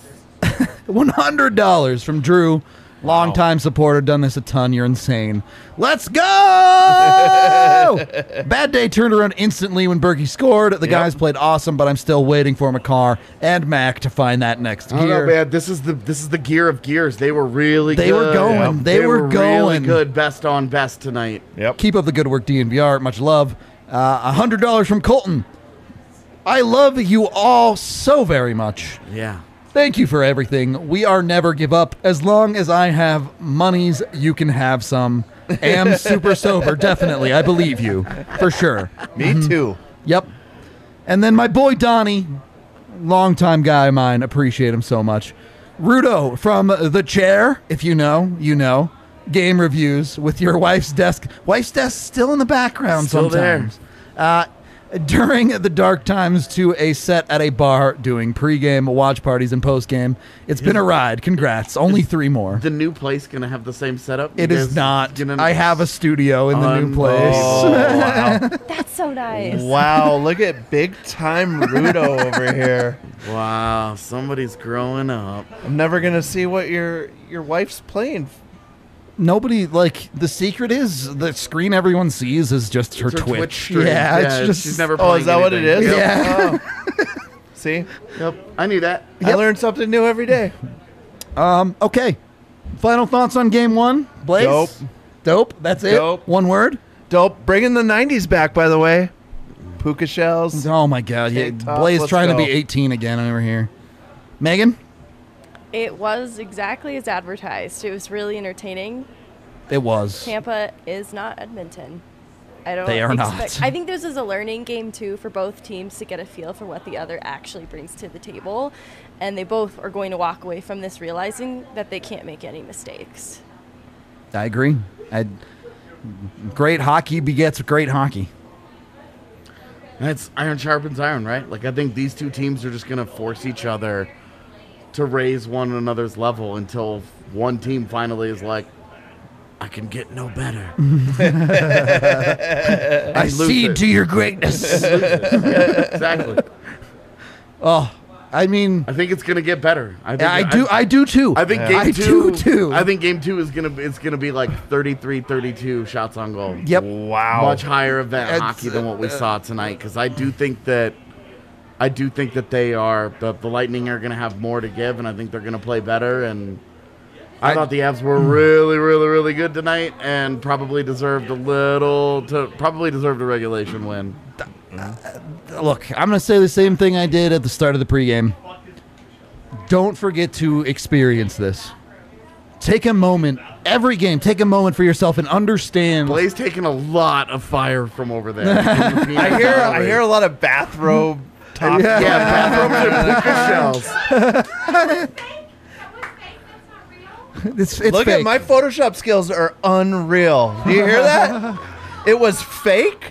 $100 from Drew. Long-time supporter, done this a ton. You're insane. Let's go! Bad day turned around instantly when Berkey scored. The guys played awesome, but I'm still waiting for Makar and Mac to find that next I don't gear. know, man. This is the gear of gears. They were really They good. were going. Yeah. They were really going. good. Best on best tonight. Yep. Keep up the good work, DNVR. Much love. $100 from Colton. I love you all so very much. Yeah. Thank you for everything. We are never give up. As long as I have monies, you can have some. Am super sober, definitely. I believe you. For sure. Me too. Yep. And then my boy Donnie, longtime guy of mine, appreciate him so much. Rudo from The Chair, if you know, you know. Game reviews with your wife's desk. Wife's desk still in the background Still there. sometimes. during the dark times to a set at a bar doing pregame, watch parties, and postgame. It's been a ride. Congrats. Only 3 more. The new place gonna have the same setup? It is not. I have a studio in the new place. Oh, wow. That's so nice. Wow, look at big time Rudo over here. Wow, somebody's growing up. I'm never going to see what your wife's playing. Nobody, like, the secret is the screen everyone sees is just her It's her Twitch. stream. Yeah, it's just. she's never Oh, playing is that what it anything. is? Yep. Yeah. Oh. See? Yep. I knew that. I learn something new every day. Okay. Final thoughts on game 1? Blaze? Dope. Dope. That's it? Dope. One word? Dope. Bringing the 90s back, by the way. Puka shells. Oh, my God. Yeah, TikTok, Blaze let's trying to be go. 18 again over here. Megan? It was exactly as advertised. It was really entertaining. It was. Tampa is not Edmonton. I don't They are not. I think this is a learning game too for both teams to get a feel for what the other actually brings to the table, and they both are going to walk away from this realizing that they can't make any mistakes. I agree. Great hockey begets great hockey. And it's iron sharpens iron, right? Like, I think these two teams are just going to force each other to raise one another's level until one team finally is like, I can get no better. I cede to your greatness. Exactly. Oh, I mean, I think it's going to get better. I do too. I think Yeah. game I two. do too. I think game 2 is gonna be like 33-32 shots on goal. Yep. Wow. Much higher event It's, hockey than what we saw tonight, because I do think that they are the Lightning are gonna have more to give, and I think they're gonna play better. And I thought the Avs were really, really, really good tonight, and probably deserved a regulation win. Look, I'm going to say the same thing I did at the start of the pregame. Don't forget to experience this. Take a moment, every game, take a moment for yourself and understand. Blaze taking a lot of fire from over there. I hear a lot of bathrobe talk. Yeah. bathrooms and puka shells. It's Look fake. at my Photoshop skills are unreal. Do you hear that? It was fake.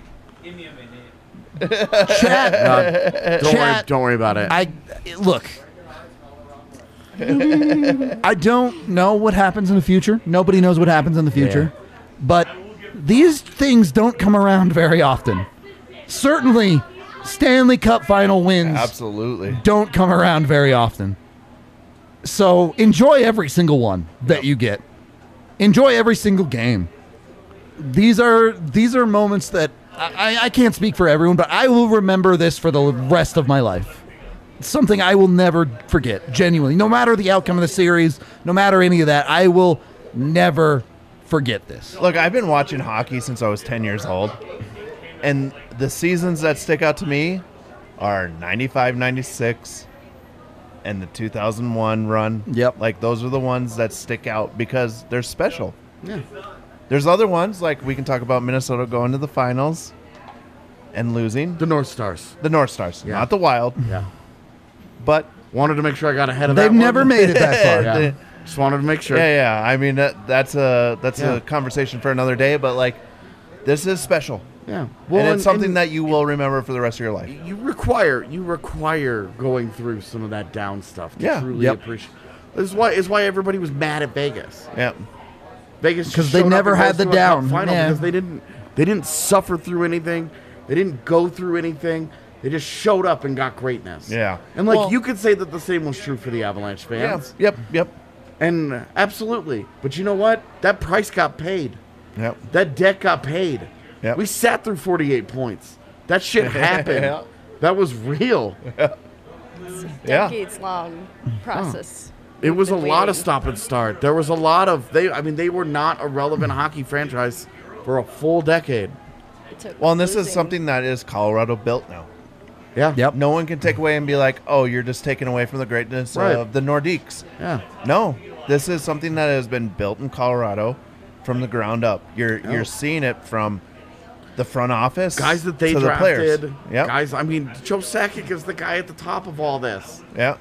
chat. Don't worry about it. Look. I don't know what happens in the future. Nobody knows what happens in the future. But these things don't come around very often. Certainly, Stanley Cup final wins Absolutely. don't come around very often. So enjoy every single one that you get. Enjoy every single game. These are moments that I can't speak for everyone, but I will remember this for the rest of my life. It's something I will never forget, genuinely. No matter the outcome of the series, no matter any of that, I will never forget this. Look, I've been watching hockey since I was 10 years old. And the seasons that stick out to me are 95, 96, and the 2001 run. Yep. Like, those are the ones that stick out because they're special. Yeah. There's other ones, like we can talk about Minnesota going to the finals and losing. The North Stars. The North Stars, Yeah. not the Wild. Yeah. But Wanted to make sure I got ahead of They've that one. never made it that far. Yeah. Just wanted to make sure. yeah. I mean, that's Yeah. a conversation for another day. But like, this is special, Yeah. and it's something that you will remember for the rest of your life. you require going through some of that down stuff to Yeah. truly Yep. appreciate. This is why everybody was mad at Vegas. Yeah, Vegas 'Cause just they showed up never and had rose the to a cup down. final Yeah. because they didn't suffer through anything. They didn't go through anything. They just showed up and got greatness. Yeah. And like Well- you could say that the same was true for the Avalanche yeah, fans. yep. And absolutely. But you know what? That price got paid. Yep. That debt got paid. Yep. We sat through 48 points. That shit happened. Yeah. That was real. Yeah. Decades-long process. It was a Been lot of waiting. stop and start. There was a lot of they were not a relevant hockey franchise for a full decade. It took Well, and this is losing. something that is Colorado built now. Yeah. Yep. No one can take away and be like, "Oh, you're just taking away from the greatness Right. of the Nordiques." Yeah. No, this is something that has been built in Colorado from the ground up. You're seeing it from the front office, Guys that they to the players. drafted. Yep. Guys, I mean, Joe Sakic is the guy at the top of all this. Yeah.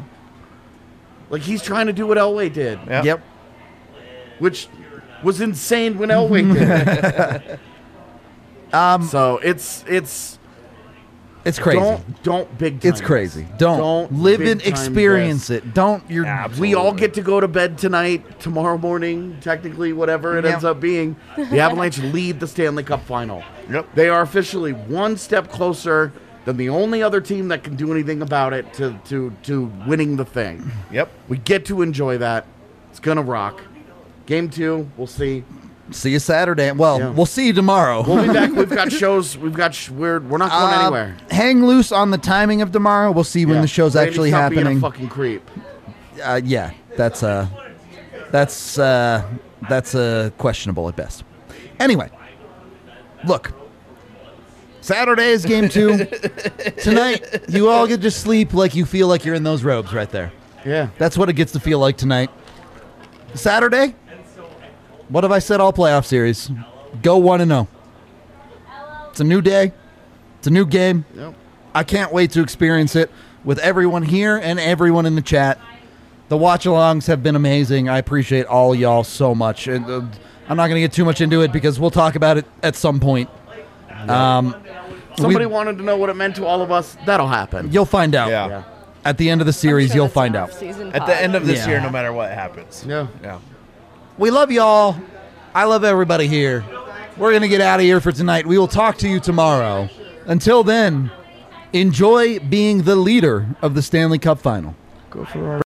Like he's trying to do what Elway did, Yeah. Yep. which was insane when Elway did. it. So it's It's crazy. Don't big time. It's crazy. Don't live big and time experience this. it. Don't. You're. We all get to go to bed tonight, tomorrow morning, technically, whatever it ends up being. The Avalanche lead the Stanley Cup final. Yep. They are officially one step closer than the only other team that can do anything about it to winning the thing. Yep. We get to enjoy that. It's going to rock. Game 2, we'll see. See you Saturday. Well, Yeah. we'll see you tomorrow. We'll be back. We've got shows. We're not going anywhere. Hang loose on the timing of tomorrow. We'll see when the show's Brady, actually stop being happening. a fucking creep. Yeah, that's questionable at best. Anyway, look, Saturday is game 2. Tonight, you all get to sleep like you feel like you're in those robes right there. Yeah. That's what it gets to feel like tonight. Saturday, what have I said all playoff series? Go 1-0. It's a new day. It's a new game. Yep. I can't wait to experience it with everyone here and everyone in the chat. The watch-alongs have been amazing. I appreciate all y'all so much. And I'm not going to get too much into it because we'll talk about it at some point. Somebody wanted to know what it meant to all of us. That'll happen. You'll find out. Yeah. At the end of the series, you'll find out. At the end of this Yeah. year, no matter what happens. Yeah. Yeah. We love y'all. I love everybody here. We're going to get out of here for tonight. We will talk to you tomorrow. Until then, enjoy being the leader of the Stanley Cup final. Go for our